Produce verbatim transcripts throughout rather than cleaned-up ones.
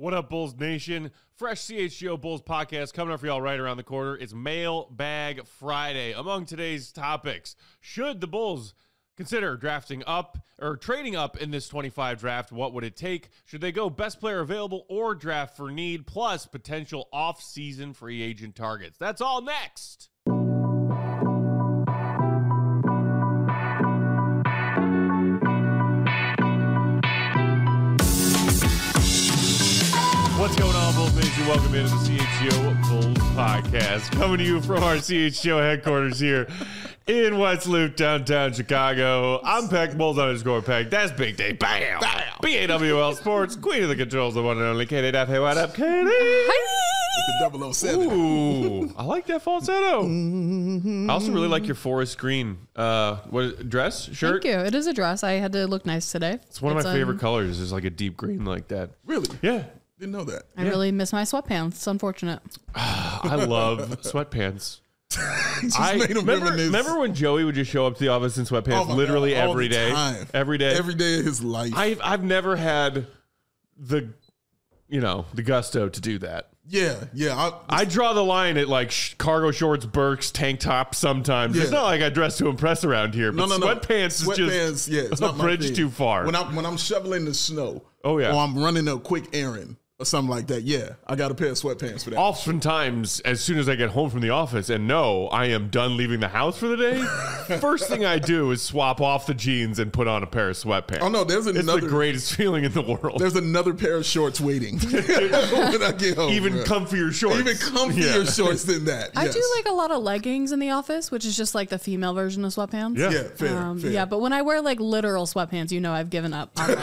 What up, Bulls Nation? Fresh C H G O Bulls podcast coming up for y'all right around the corner. It's Mailbag Friday. Among today's topics, should the Bulls consider drafting up or trading up in this twenty-five draft? What would it take? Should they go best player available or draft for need, plus potential off-season free agent targets? That's all next. What's going on, Bulls Nation? Welcome into the C H G O Bulls podcast. Coming to you from our C H G O headquarters here in West Loop, downtown Chicago. I'm Peck, Bulls underscore Peck. That's Big Day. Bam! Bam! B A W L Sports, Queen of the Controls, the one and only Katie Duff. Hey, what up, Katie? With the double oh seven. Ooh, I like that falsetto. I also really like your forest green uh, what dress, shirt. Thank you. It is a dress. I had to look nice today. It's one of it's, my favorite um, colors. Is like a deep green like that. Really? Yeah. Didn't know that. I yeah. really miss my sweatpants. It's unfortunate. I love sweatpants. Just I made him remember, reminisce. remember when Joey would just show up to the office in sweatpants Oh my literally God, all every the day, time. every day, Every day of his life. I've I've never had the, you know, the gusto to do that. yeah, yeah. I, I draw the line at like sh- cargo shorts, Birks, tank top. Sometimes Yeah. it's not like I dress to impress around here. But no, no, no. sweatpants is Sweatpants, just yeah, it's a not my bridge thing. too far. When I'm when I'm shoveling the snow, Oh, yeah. or I'm running a quick errand or something like that. Yeah, I got a pair of sweatpants for that. Oftentimes, as soon as I get home from the office and know I am done leaving the house for the day, first thing I do is swap off the jeans and put on a pair of sweatpants. Oh no, there's It's another. the greatest feeling in the world. There's another pair of shorts waiting when I get home. Even bro. comfier shorts. even comfier Yeah. shorts than that. I yes. do like a lot of leggings in the office, which is just like the female version of sweatpants. Yeah. Yeah, fair, Um, fair. yeah, but when I wear like literal sweatpants, you know I've given up on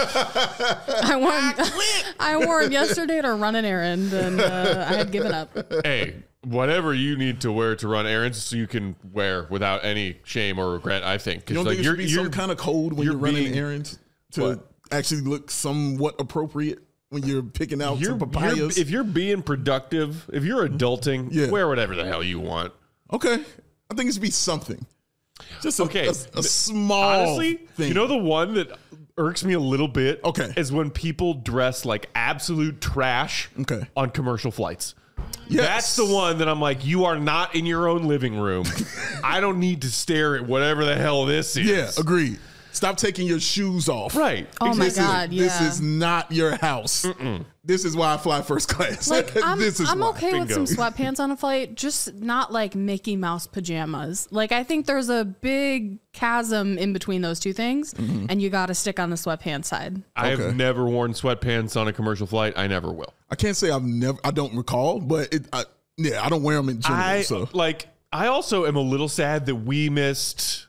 life. I wore I wore them yesterday to run an errand, and uh, I had given up. Hey, whatever you need to wear to run errands, so you can wear without any shame or regret. I think. 'Cause, You don't like, think it you're, should be you're, some kind of code when you're you're, running being- errands to What? actually look somewhat appropriate when you're picking out you're, some you're- papayas? if you're being productive, if you're adulting, Yeah. wear whatever the hell you want. okay, I think it should be something. Just a, Okay. a, a small Honestly, thing. you know the one that irks me a little bit. Okay. Is when people dress like absolute trash. Okay. On commercial flights. Yes. That's the one that I'm like, you are not in your own living room. I don't need to stare at whatever the hell this is. Yeah, agreed. Stop taking your shoes off. Right. Oh my This is- God, This yeah. is not your house. This is why I fly first class. Like I'm, this is I'm why. okay with Bingo. some sweatpants on a flight, just not like Mickey Mouse pajamas. Like I think there's a big chasm in between those two things, and you got to stick on the sweatpants side. I Okay. have never worn sweatpants on a commercial flight. I never will. I can't say I've never. I don't recall, but it. I, yeah, I don't wear them in general. I so like. I also am a little sad that we missed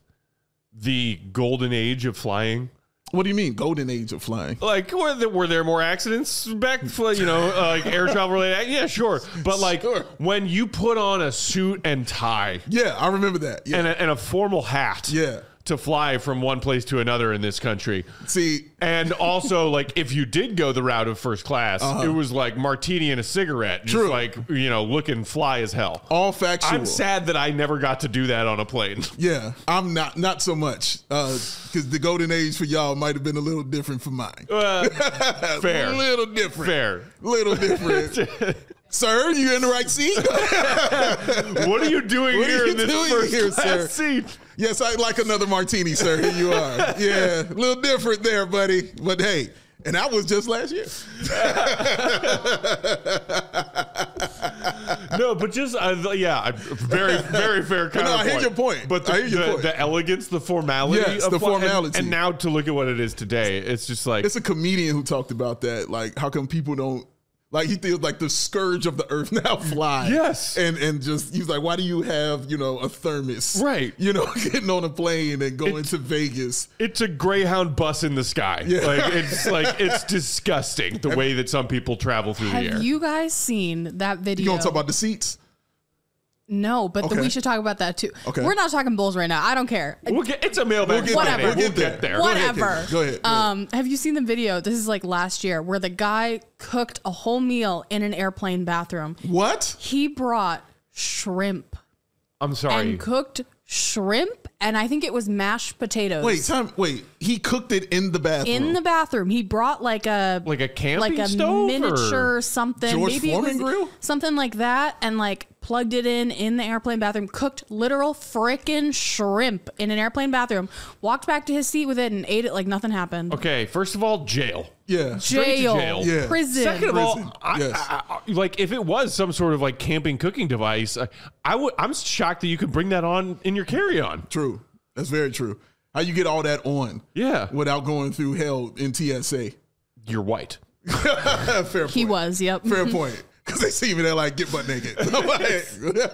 the golden age of flying. what do you mean, golden age of flying? Like, were there, were there more accidents back, for, you know, uh, like air travel related? Yeah, sure. But like Sure. when you put on a suit and tie Yeah, I remember that. Yeah, and a, and a formal hat, Yeah. to fly from one place to another in this country. see, And also, like, if you did go the route of first class, it was like martini and a cigarette, just True. like, you know, looking fly as hell. all factual. I'm sad that I never got to do that on a plane. Yeah, I'm not not so much because the golden age for y'all might have been a little different from mine. Uh, fair. A little different. Fair. Little different. Sir, you in the right seat? What are you doing What are here you in this doing first here, class sir? seat? Yes, I'd like another martini, sir. Here you are. Yeah, a little different there, buddy. But hey, and that was just last year. No, but just uh, yeah, I- very, very fair no, counterpoint. I hear your point. But the, I hear your the, point. the elegance, the formality, Yes, of the fly- and- formality. and, now to look at what it is today, it's just like It's a comedian who talked about that. Like, how come people don't like? He feels like the scourge of the earth now fly. Yes. and and just he's like, why do you have you know a thermos? Right. You know, getting on a plane and going It's- to Vegas. it's a Greyhound bus in the sky. Yeah. Like it's like it's disgusting the way that some people travel through the air. Have you guys seen that video? You gonna talk about the seats? No, but Okay. we should talk about that too. Okay. We're not talking Bulls right now. I don't care. We'll get, it's a mailbag. We'll get Whatever. there. We'll We'll get, get there. there. What- Go ahead, Whatever. Katie. Go ahead. Go ahead. Um, have you seen the video? This is like last year where the guy cooked a whole meal in an airplane bathroom. What? He brought shrimp I'm sorry. and cooked shrimp and I think it was mashed potatoes. Wait, time. Wait, he cooked it in the bathroom. in the bathroom. He brought like a Like a camping like a stove miniature or? something. George Maybe Foreman it was grill? something like that, and like plugged it in in the airplane bathroom. Cooked literal frickin' shrimp in an airplane bathroom. Walked back to his seat with it and ate it like nothing happened. Okay, first of all, jail. Yeah. Straight to Jail, jail. Yeah. prison. Second of Prison, all, I, yes. I, I, like if it was some sort of like camping cooking device, I, I would. I'm shocked that you could bring that on in your carry-on. True. That's very true. How you get all that on Yeah, without going through hell in T S A? you're white. Fair point. He was, yep. Fair point. Because they see me, they're like, get butt naked. I'm like-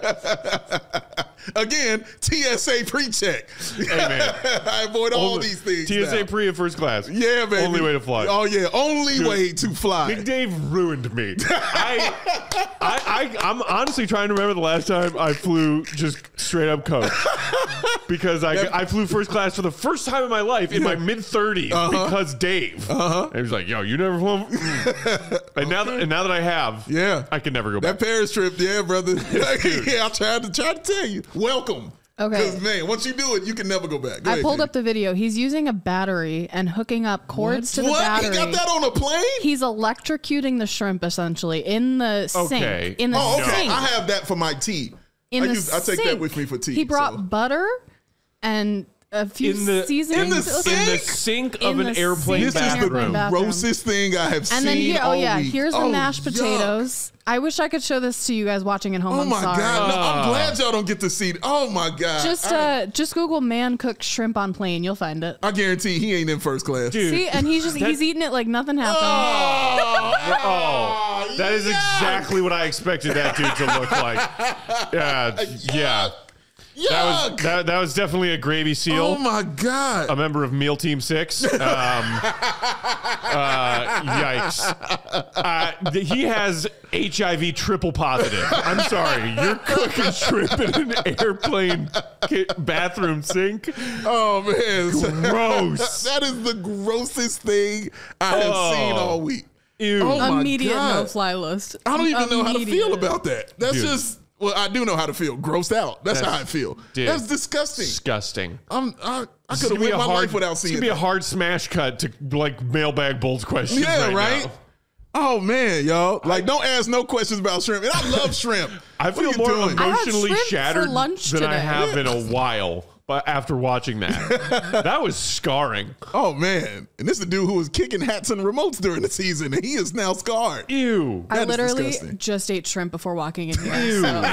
Again, T S A pre-check. Hey man, I avoid all Only- these things. T S A now. pre and first class. Yeah, baby. Only way to fly. Oh, yeah. Only way to fly. Big Dave ruined me. I, I, I, I'm honestly trying to remember the last time I flew just straight up coach because I, I flew first class for the first time in my life in my mid thirties Uh-huh. because Dave. Uh-huh. And he was like, "Yo, you never flew." and now, that, and now that I have, Yeah. I can never go That back. Paris trip, yeah, brother. yeah, I tried to try to tell you. Welcome. Okay. Because, man, once you do it, you can never go back. Go I ahead, pulled Katie. up the video. He's using a battery and hooking up cords to the What? battery. He got that on a plane? He's electrocuting the shrimp essentially in the Okay. sink. In the Oh, okay. sink. I have that for my tea. in I, the use, I take that sink. with me for tea. He brought so. butter and a few In the seasonings. in the in the sink? sink In of an the airplane sink This is the Airplane bathroom. grossest thing I have seen And then here, oh all yeah, week. here's the Oh, mashed yuck. potatoes. I wish I could show this to you guys watching at home. Oh I'm my sorry. god! No, Ah. I'm glad y'all don't get to see. Oh my god! Just I, uh, just Google man cooked shrimp on plane. You'll find it. I guarantee he ain't in first class. Dude. See, and he's just he's eating it like nothing happened. Oh, that is exactly what I expected that dude to look like. Yeah, yeah. Yuck! That was that, that was definitely a gravy seal. Oh my god! A member of Meal Team Six. Um, uh, yikes. Uh, th- he has H I V triple positive. I'm sorry. You're cooking shrimp in an airplane ki- bathroom sink. Oh man! Gross. That is the grossest thing I have Oh. seen all week. Ew. Oh my Immediate God. no fly list. I don't even know how to feel Immediate. about that. That's Dude. just. Well, I do know how to feel. Grossed out. That's, That's- how I feel. dude. That's disgusting. Disgusting. I'm. I, I This could is have gonna be went a my hard- life without It's seeing gonna be that. a hard smash cut to like mailbag Bolts questions. Yeah, right. right? now. Oh man, y'all! Like, don't ask no questions about shrimp. And I love shrimp. I What feel are you more doing? I had emotionally shrimp for shattered lunch than I today. have in a while. But after watching that, that was scarring. Oh man! And this is the dude who was kicking hats and remotes during the season, and he is now scarred. Ew. I That is literally disgusting. just ate shrimp before walking in here. Ew. So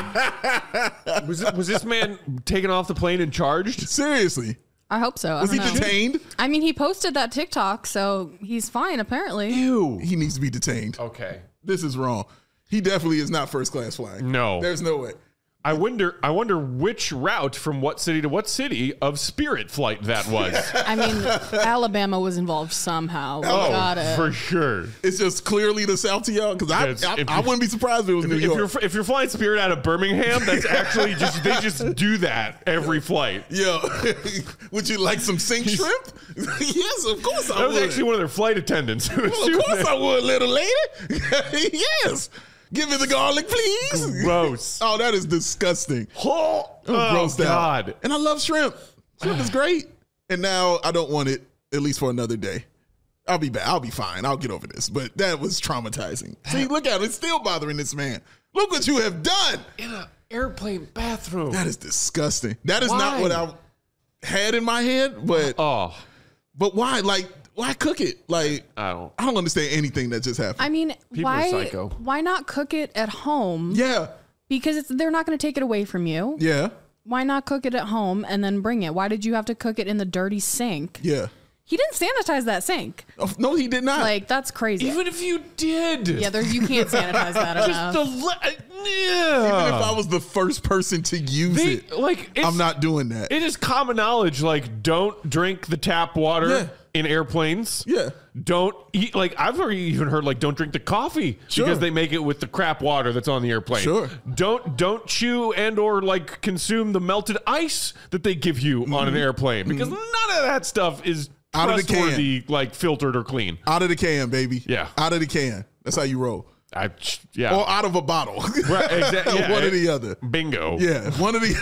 Was, it, was this man taken off the plane and charged? Seriously, I hope so. I was he don't know. detained? I mean, he posted that TikTok, so he's fine apparently. Ew. He needs to be detained. Okay. This is wrong. He definitely is not first class flying. No. There's no way. I wonder. I wonder which route from what city to what city of Spirit flight that was. I mean, Alabama was involved somehow. We oh, got it. for sure. It's just clearly the South to y'all because I, It's- I, if I you- wouldn't be surprised if it was New If York. you're if you're flying Spirit out of Birmingham, that's actually just they just do that every flight. Yeah. Would you like some sink shrimp? Yes, of course I That was would. actually one of their flight attendants. who was Well, doing of course that. I would, little lady. Yes. Give me the garlic, please. Gross. Oh, that is disgusting. Oh, I'm grossed God. out. And I love shrimp. Shrimp is great. And now I don't want it at least for another day. I'll be back. I'll be fine. I'll get over this. But that was traumatizing. See, look at it. It's still bothering this man. Look what you have done. In an airplane bathroom. That is disgusting. That is Why? not what I had in my head. But Oh, but why? Like, why cook it? Like, I don't. I don't understand anything that just happened. I mean, People are why psycho. why not cook it at home? yeah. Because it's, they're not going to take it away from you. Yeah. Why not cook it at home and then bring it? Why did you have to cook it in the dirty sink? Yeah. He didn't sanitize that sink. Oh, no, he did not. Like, that's crazy. Even if you did. yeah, there, you can't sanitize that Just enough. the le- yeah. Even if I was the first person to use They- it, like it's, I'm not doing that. It is common knowledge. Like, don't drink the tap water Yeah. in airplanes. Yeah. Don't eat. Like, I've already even heard. Like, don't drink the coffee Sure. because they make it with the crap water that's on the airplane. Sure. Don't don't chew and or like consume the melted ice that they give you on an airplane because none of that stuff is Mm-hmm. Out of the can. trustworthy, like filtered or clean. Out of the can, baby. Yeah. Out of the can. That's how you roll. I yeah. Or out of a bottle. Right, exactly. Yeah, One or the other. Bingo. Yeah. One of the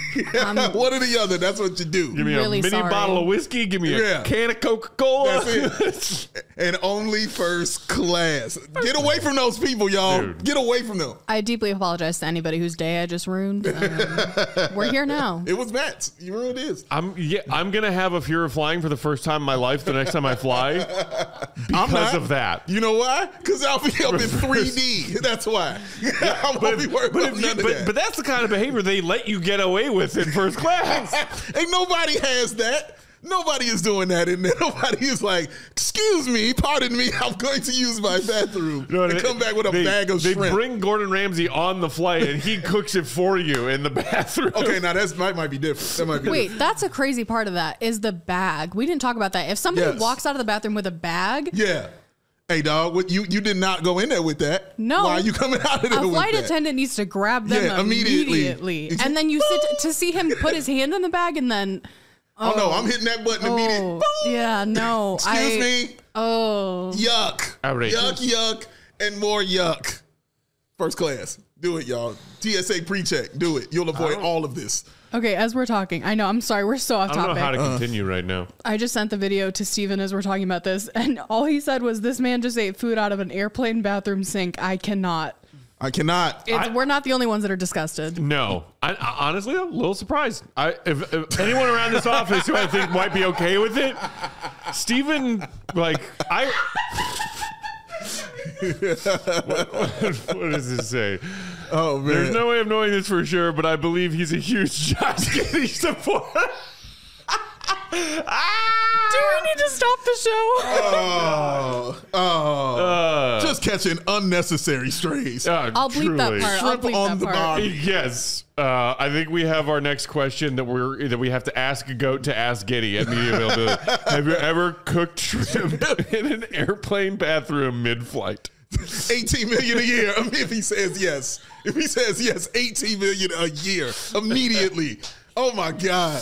One or the other. That's what you do. Give me really a mini sorry. bottle of whiskey. Give me a Yeah. can of Coca-Cola. That's it. And only first class. Get away from those people, y'all. Dude. Get away from them. I deeply apologize to anybody whose day I just ruined. Um, we're here now. It was Matt's. You know what it is. I'm yeah. I'm gonna have a fear of flying for the first time in my life. The next time I fly, I'm because not. of that. You know why? Because I'll be up in three D. That's why. I won't be worried But, about if you, none of but, that. but that's the kind of behavior they let you get away with in first class. Ain't nobody has that. Nobody is doing that in there. Nobody is like, excuse me, pardon me, I'm going to use my bathroom. You know what I and mean? come back with a they, bag of they shrimp. bring Gordon Ramsay on the flight and he cooks it for you in the bathroom. Okay, now that's might might be different. That might be Wait, different. that's a crazy part of that is the bag. We didn't talk about that. If somebody Yes. walks out of the bathroom with a bag, Yeah. Hey, dog, what, you, you did not go in there with that. No. Why are you coming out of there a with flight that? attendant needs to grab them Yeah, immediately. immediately. And then you sit to see him put his hand in the bag and then Oh, no, I'm hitting that button immediately. oh, yeah, no. Excuse I, me. Oh. Yuck. Outrageous. Yuck, yuck, and more yuck. First class. Do it, y'all. T S A pre-check. Do it. You'll avoid all of this. Okay, as we're talking, I know, I'm sorry, we're so off I don't topic. know how to continue right now. I just sent the video to Steven as we're talking about this, and all he said was, this man just ate food out of an airplane bathroom sink. I cannot. I cannot. It's, I- we're not the only ones that are disgusted. No, I, I honestly, I'm a little surprised. I, if, if anyone around this office who I think might be okay with it, Steven, like, I. what, what, what does this say? Oh, man. There's no way of knowing this for sure, but I believe he's a huge Josh Giddey supporter. Ah! Do we need to stop the show? Oh, oh. Uh, Just catching unnecessary strays. uh, I'll bleep that truly. part. I'll Shrimp bleep on that the part. bottom. Yes, uh, I think we have our next question that we're that we have to ask a goat to ask Giddy at media availability. Have you ever cooked shrimp in an airplane bathroom mid-flight? eighteen million a year. I mean, if he says yes, if he says yes, eighteen million a year immediately. Oh my God.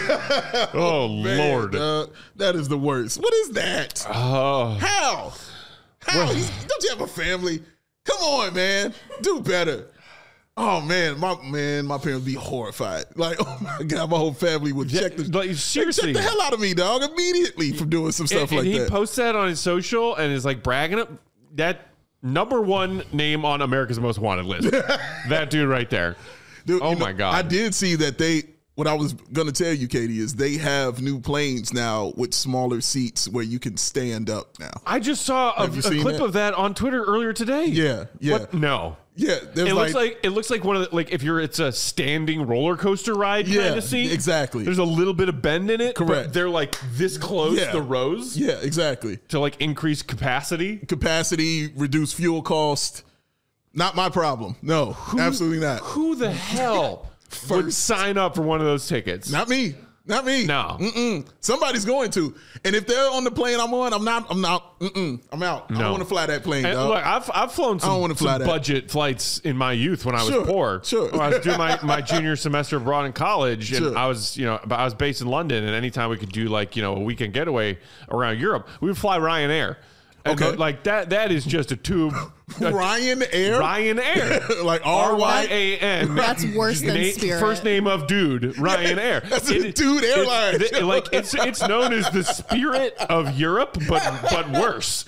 Oh, Man, Lord! dog, that is the worst. What is that? Oh, How? How? He's- don't you have a family? Come on, man. Do better. Oh man, my man, my parents be horrified. Like, oh my God, my whole family would check the like, they seriously. check the hell out of me, dog, immediately from doing some stuff and, like and he that. posts that on his social and is like bragging up that number one name on America's Most Wanted list. That dude right there. Dude, Oh you know, my God. I did see that they. What I was gonna tell you, Katie, is they have new planes now with smaller seats where you can stand up now. I just saw a, Have you a seen clip that? of that on Twitter earlier today. Yeah, yeah, What? No. yeah. There's It like, looks like it looks like one of the, like if you're it's a standing roller coaster ride Yeah, kind of seat. exactly. There's a little bit of bend in it. Correct. But they're like this close, Yeah. the rows, yeah, exactly. to like increase capacity. Capacity, reduce fuel cost. Not my problem. No, absolutely not. Who the hell would First. sign up for one of those tickets? Not me. Not me. No. Mm-mm. Somebody's going to. And if they're on the plane I'm on, I'm not. I'm not. Mm-mm. I'm out. I No. don't want to fly that plane, And dog. look, I've I've flown don't some, wanna fly some that. budget flights in my youth when I was Sure, poor. sure. When I was doing my, my junior semester abroad in college, and Sure. I was you know but I was based in London, and anytime we could do like you know a weekend getaway around Europe, we would fly Ryanair. And Okay. like that that is just a tube. a- Ryan Air? Ryanair. Like R R Y Y. A N. That's worse than Na- Spirit. First name of dude, Ryanair. That's a dude airline. It, like it's it's known as the Spirit of Europe, but but worse.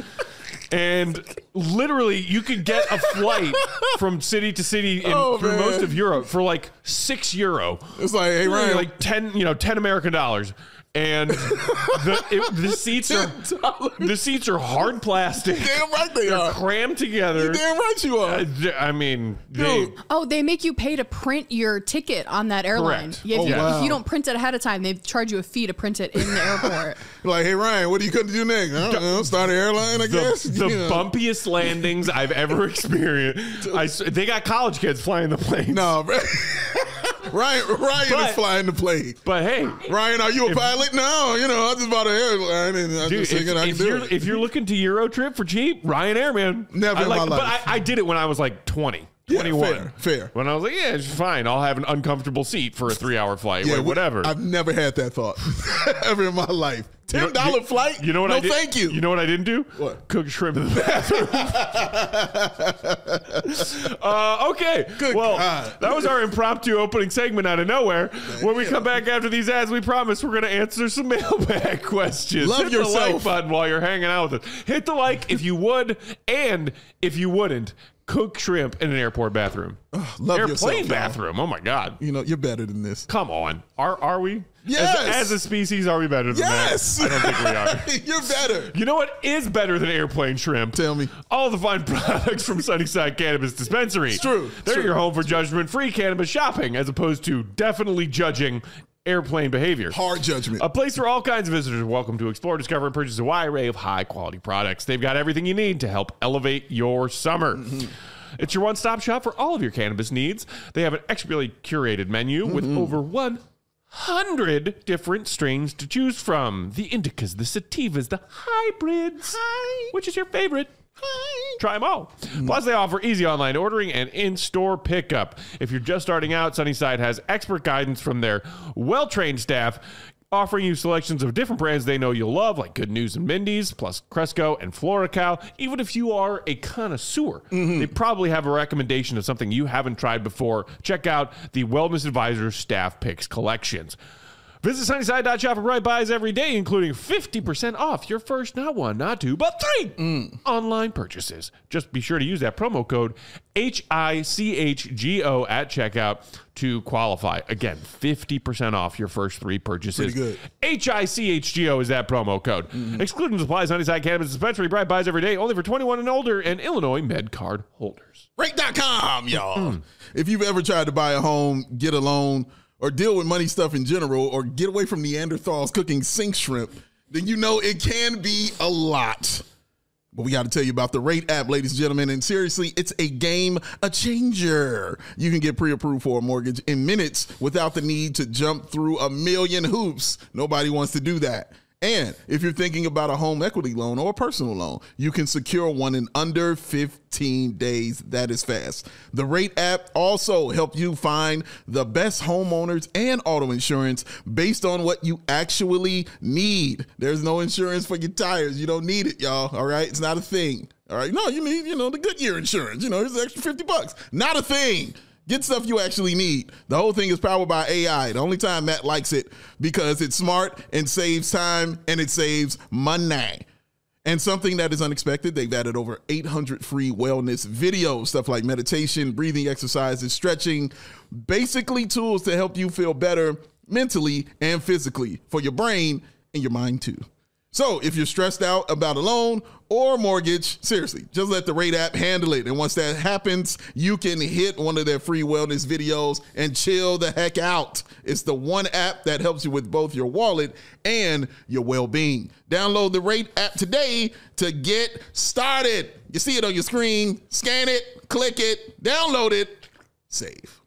And literally, you could get a flight from city to city in Oh, through man. most of Europe for like six euro, It's like, hey, Ryan. like ten, you know, ten American dollars. And the it, the seats are the seats are hard plastic. damn right they They're are. crammed together. Damn right you are. Uh, th- I mean, they, Dude. Oh, they make you pay to print your ticket on that airline. Correct. Yeah, if, Oh, you, wow. if you don't print it ahead of time, they charge you a fee to print it in the airport. Like, hey, Ryan, what are you going to do next? I don't know. Start an airline, I the, guess. the You know. bumpiest landings I've ever experienced. I s they got college kids flying the planes. No, bro. Ryan, Ryan But- is flying the plane. But hey, Ryan, are you a pilot? No, you know, I just bought an airline and I'm dude, just if, thinking I can if do you're it. if you're looking to Euro trip for cheap, Ryanair, man. Never I in my But life. I, I did it when I was like twenty, Yeah, twenty-one. fair, fair. When I was like, yeah, it's fine. I'll have an uncomfortable seat for a three-hour flight. Yeah, Wait, we- whatever. I've never had that thought ever in my life. ten dollar you know, flight? You know what no, I did? thank you. You know what I didn't do? What? Cook shrimp in the bathroom. uh, okay. Good well, God. that was our impromptu opening segment out of nowhere. When we come back after these ads, we promise we're going to answer some mailbag questions. Love Hit yourself. the like button while you're hanging out with us. Hit the like if you would, and if you wouldn't, cook shrimp in an airport bathroom. Ugh, love Airplane yourself, y'all. bathroom. Oh my God. You know, you're better than this. Come on. Are are we? Yes. As, as a species, are we better than Yes. that? I don't think we are. You're better. You know what is better than airplane shrimp? Tell me. All the fine products from Sunnyside Cannabis Dispensary. It's true. They're It's your true. home for judgment-free cannabis shopping, as opposed to definitely judging airplane behavior. Hard judgment. A place where all kinds of visitors are welcome to explore, discover, and purchase a wide array of high-quality products. They've got everything you need to help elevate your summer. Mm-hmm. It's your one-stop shop for all of your cannabis needs. They have an expertly curated menu mm-hmm. with over one hundred different strains to choose from. The indicas, the sativas, the hybrids. Hi. Which is your favorite? Hi. Try them all. Plus, they offer easy online ordering and in-store pickup. If you're just starting out, Sunnyside has expert guidance from their well-trained staff, offering you selections of different brands they know you'll love, like Good News and Mindy's, plus Cresco and FloraCal. Even if you are a connoisseur, mm-hmm. they probably have a recommendation of something you haven't tried before. Check out the Wellness Advisors Staff Picks collections. Visit Sunnyside dot shop for Bright Buys every day, including fifty percent off your first, not one, not two, but three mm. online purchases. Just be sure to use that promo code H I C H G O at checkout to qualify. Again, fifty percent off your first three purchases. Pretty good. H I C H G O is that promo code. Mm-hmm. Excluding supplies, Sunnyside Cannabis Dispensary, Bright Buys every day, only for twenty-one and older and Illinois Med Card holders. Rate dot com, y'all. Mm. If you've ever tried to buy a home, get a loan, or deal with money stuff in general, or get away from Neanderthals cooking sink shrimp, then you know it can be a lot. But we got to tell you about the Rate app, ladies and gentlemen. And seriously, it's a game a changer. You can get pre-approved for a mortgage in minutes without the need to jump through a million hoops. Nobody wants to do that. And if you're thinking about a home equity loan or a personal loan, you can secure one in under fifteen days. That is fast. The Rate app also helps you find the best homeowners and auto insurance based on what you actually need. There's no insurance for your tires. You don't need it, y'all. All right. It's not a thing. All right. No, you need, you know, the Goodyear insurance. You know, it's an extra fifty bucks. Not a thing. Get stuff you actually need. The whole thing is powered by A I. The only time Matt likes it because it's smart and saves time and it saves money. And something that is unexpected, they've added over eight hundred free wellness videos, stuff like meditation, breathing exercises, stretching, basically tools to help you feel better mentally and physically for your brain and your mind too. So if you're stressed out about a loan or mortgage, seriously, just let the Rate app handle it. And once that happens, you can hit one of their free wellness videos and chill the heck out. It's the one app that helps you with both your wallet and your well-being. Download the Rate app today to get started. You see it on your screen. Scan it, click it, download it, save.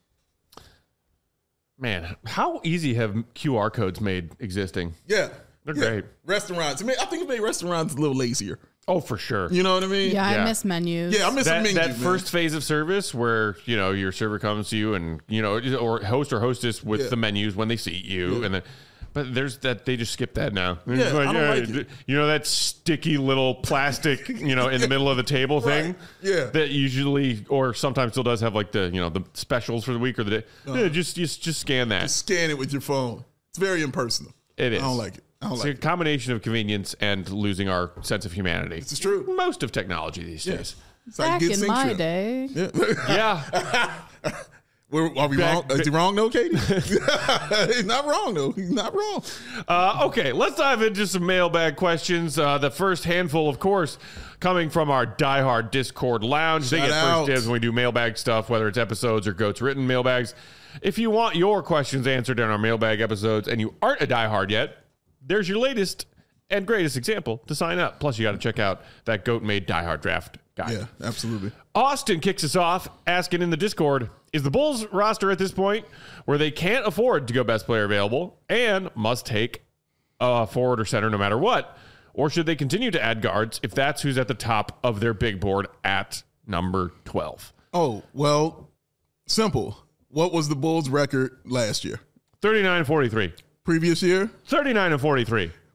Man, how easy have Q R codes made existing? Yeah. They're yeah. great. Restaurants. I mean, I think it made restaurants a little lazier. Oh, for sure. You know what I mean? Yeah, Yeah. I miss menus. Yeah, I miss that, a menu, that man. first phase of service where, you know, your server comes to you and, you know, or host or hostess with Yeah. the menus when they seat you. Yeah. And then, but there's that, they just skip that now. They're Yeah, just like, I don't like it. You know, that sticky little plastic, you know, in the middle of the table thing. Right. Yeah. That usually, or sometimes still does have like the, you know, the specials for the week or the day. Uh-huh. Yeah, just, just, just scan that. Just scan it with your phone. It's very impersonal. It is. I don't like it. I don't It's like a it. combination of convenience and losing our sense of humanity. This is true. Most of technology these Yeah. days. It's like Back good in sink my shrimp. day. Yeah. We're, are we Back- wrong? Is he wrong though, Katie? He's not wrong though. He's not wrong. Uh, okay, let's dive into some mailbag questions. Uh, the first handful, of course, coming from our diehard Discord lounge. They Shout get out. first dibs when we do mailbag stuff, whether it's episodes or Goats written mailbags. If you want your questions answered in our mailbag episodes and you aren't a diehard yet, there's your latest and greatest example to sign up. Plus, you got to check out that Goat made diehard draft guide. Yeah, absolutely. Austin kicks us off asking in the Discord, is the Bulls roster at this point where they can't afford to go best player available and must take a forward or center no matter what? Or should they continue to add guards if that's who's at the top of their big board at number twelve? Oh, well, simple. What was the Bulls' record last year? thirty-nine and forty-three. Previous year? thirty-nine and forty-three.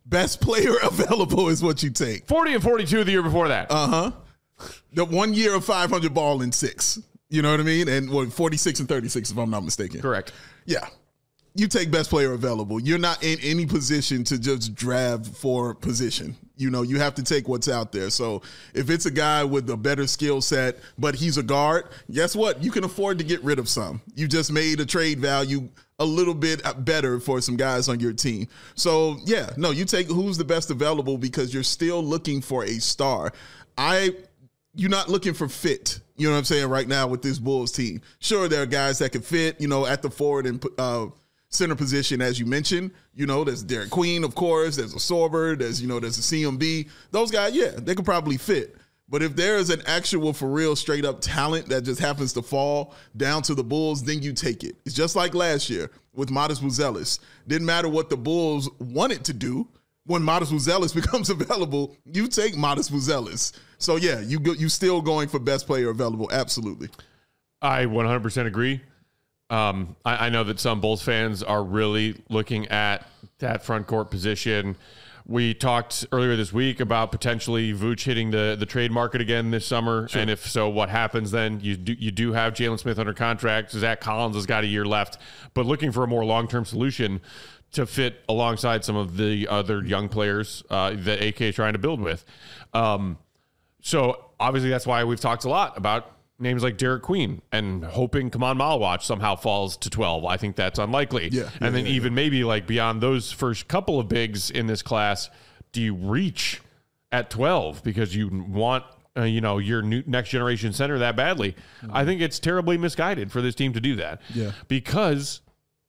Best player available is what you take. forty and forty-two the year before that. Uh-huh. The one year of five hundred ball in six. You know what I mean? And what, forty-six and thirty-six, if I'm not mistaken. Correct. Yeah. You take best player available. You're not in any position to just draft for position. You know, you have to take what's out there. So if it's a guy with a better skill set, but he's a guard, guess what? You can afford to get rid of some. You just made a trade value a little bit better for some guys on your team. So, yeah, no, you take who's the best available because you're still looking for a star. I... You're not looking for fit, you know what I'm saying, right now with this Bulls team. Sure, there are guys that can fit, you know, at the forward and uh, center position, as you mentioned. You know, there's Derek Queen, of course. There's a Sorber. There's, you know, there's a C M B. Those guys, yeah, they could probably fit. But if there is an actual, for real, straight-up talent that just happens to fall down to the Bulls, then you take it. It's just like last year with Modest Buzelis. Didn't matter what the Bulls wanted to do. When Modest Buzelis becomes available, you take Modest Buzelis. So, yeah, you go, you still going for best player available. Absolutely. I one hundred percent agree. Um, I, I know that some Bulls fans are really looking at that front court position. We talked earlier this week about potentially Vooch hitting the, the trade market again this summer. Sure. And if so, what happens then? You do, you do have Jalen Smith under contract. Zach Collins has got a year left. But looking for a more long-term solution to fit alongside some of the other young players uh, that A K is trying to build with. Um, so obviously that's why we've talked a lot about names like Derek Queen and hoping Kaman Malawach somehow falls to twelve. I think that's unlikely. Yeah, yeah, and then yeah, even yeah. maybe like beyond those first couple of bigs in this class, do you reach at twelve because you want uh, you know, your new next generation center that badly? Mm-hmm. I think it's terribly misguided for this team to do that. Yeah. Because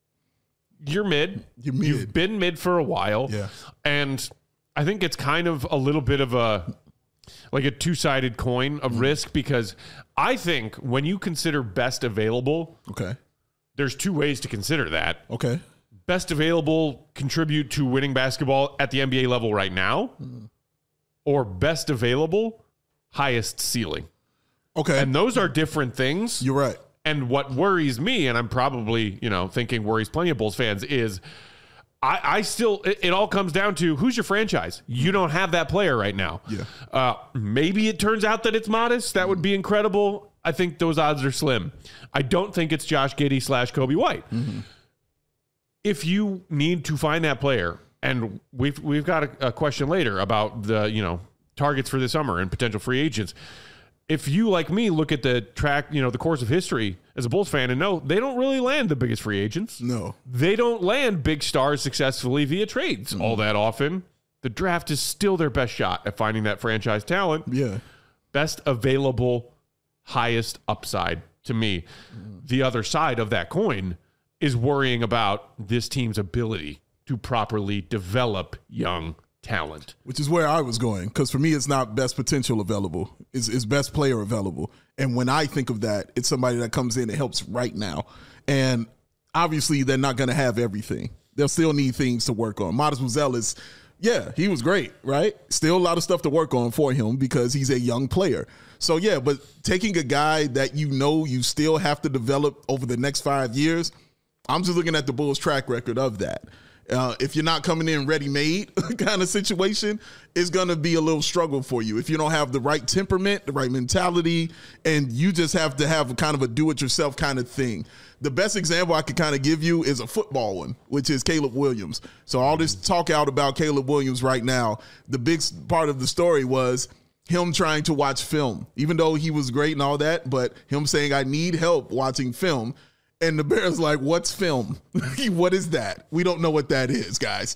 You're mid. You're mid. You've been mid for a while. Yeah. And I think it's kind of a little bit of a, like a two-sided coin of mm. risk, because I think when you consider best available, okay, there's two ways to consider that. Okay. Best available contribute to winning basketball at the N B A level right now, mm. or best available, highest ceiling. Okay. And those are different things. You're right. And what worries me, and I'm probably, you know, thinking worries plenty of Bulls fans, is I, I still, it, it all comes down to who's your franchise. You don't have that player right now. Yeah. Uh, maybe it turns out that it's Modest. That would be incredible. I think those odds are slim. I don't think it's Josh Giddey slash Kobe White. Mm-hmm. If you need to find that player, and we've we've got a, a question later about the, you know, targets for this summer and potential free agents. If you, like me, look at the track, you know, the course of history as a Bulls fan and know they don't really land the biggest free agents. No. They don't land big stars successfully via trades mm. all that often. The draft is still their best shot at finding that franchise talent. Yeah. Best available, highest upside to me. Mm. The other side of that coin is worrying about this team's ability to properly develop young talent, which is where I was going, because for me it's not best potential available, it's, it's best player available. And when I think of that, it's somebody that comes in and helps right now. And obviously they're not going to have everything. They'll still need things to work on. Modest Buzelis, yeah, he was great, right? Still a lot of stuff to work on for him because he's a young player. So yeah, but taking a guy that you know you still have to develop over the next five years, I'm just looking at the Bulls' track record of that. Uh, if you're not coming in ready-made kind of situation, it's going to be a little struggle for you. If you don't have the right temperament, the right mentality, and you just have to have a kind of a do-it-yourself kind of thing. The best example I could kind of give you is a football one, which is Caleb Williams. So all this talk out about Caleb Williams right now, the big part of the story was him trying to watch film, even though he was great and all that, but him saying, I need help watching film. And the Bears like, what's film? What is that? We don't know what that is, guys.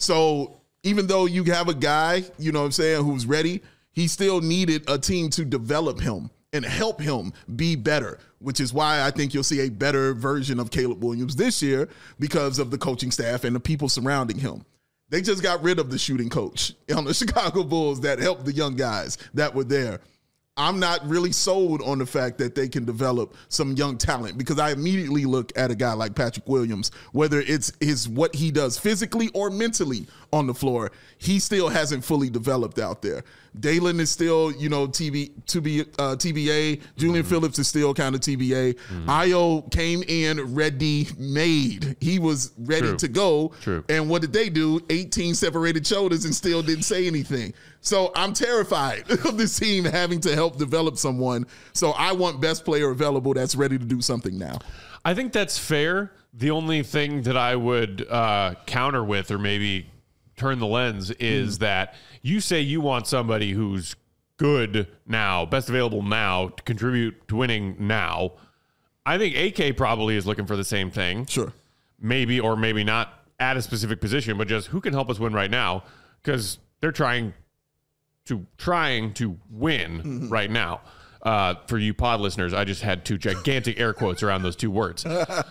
So even though you have a guy, you know what I'm saying, who's ready, he still needed a team to develop him and help him be better, which is why I think you'll see a better version of Caleb Williams this year because of the coaching staff and the people surrounding him. They just got rid of the shooting coach on the Chicago Bulls that helped the young guys that were there. I'm not really sold on the fact that they can develop some young talent because I immediately look at a guy like Patrick Williams, whether it's his what he does physically or mentally on the floor, he still hasn't fully developed out there. Dalen is still, you know, T B, to be, uh, T B A. Julian mm-hmm. Phillips is still kind of T B A. Mm-hmm. Ayo came in ready made. He was ready True. to go. True. And what did they do? eighteen separated shoulders and still didn't say anything. So I'm terrified of this team having to help develop someone. So I want best player available that's ready to do something now. I think that's fair. The only thing that I would uh, counter with, or maybe turn the lens, is mm. that you say you want somebody who's good now, best available now, to contribute to winning now. I think A K probably is looking for the same thing. Sure. Maybe or maybe not at a specific position, but just who can help us win right now, because they're trying to trying to win mm-hmm. right now. Uh, for you pod listeners, I just had two gigantic air quotes around those two words.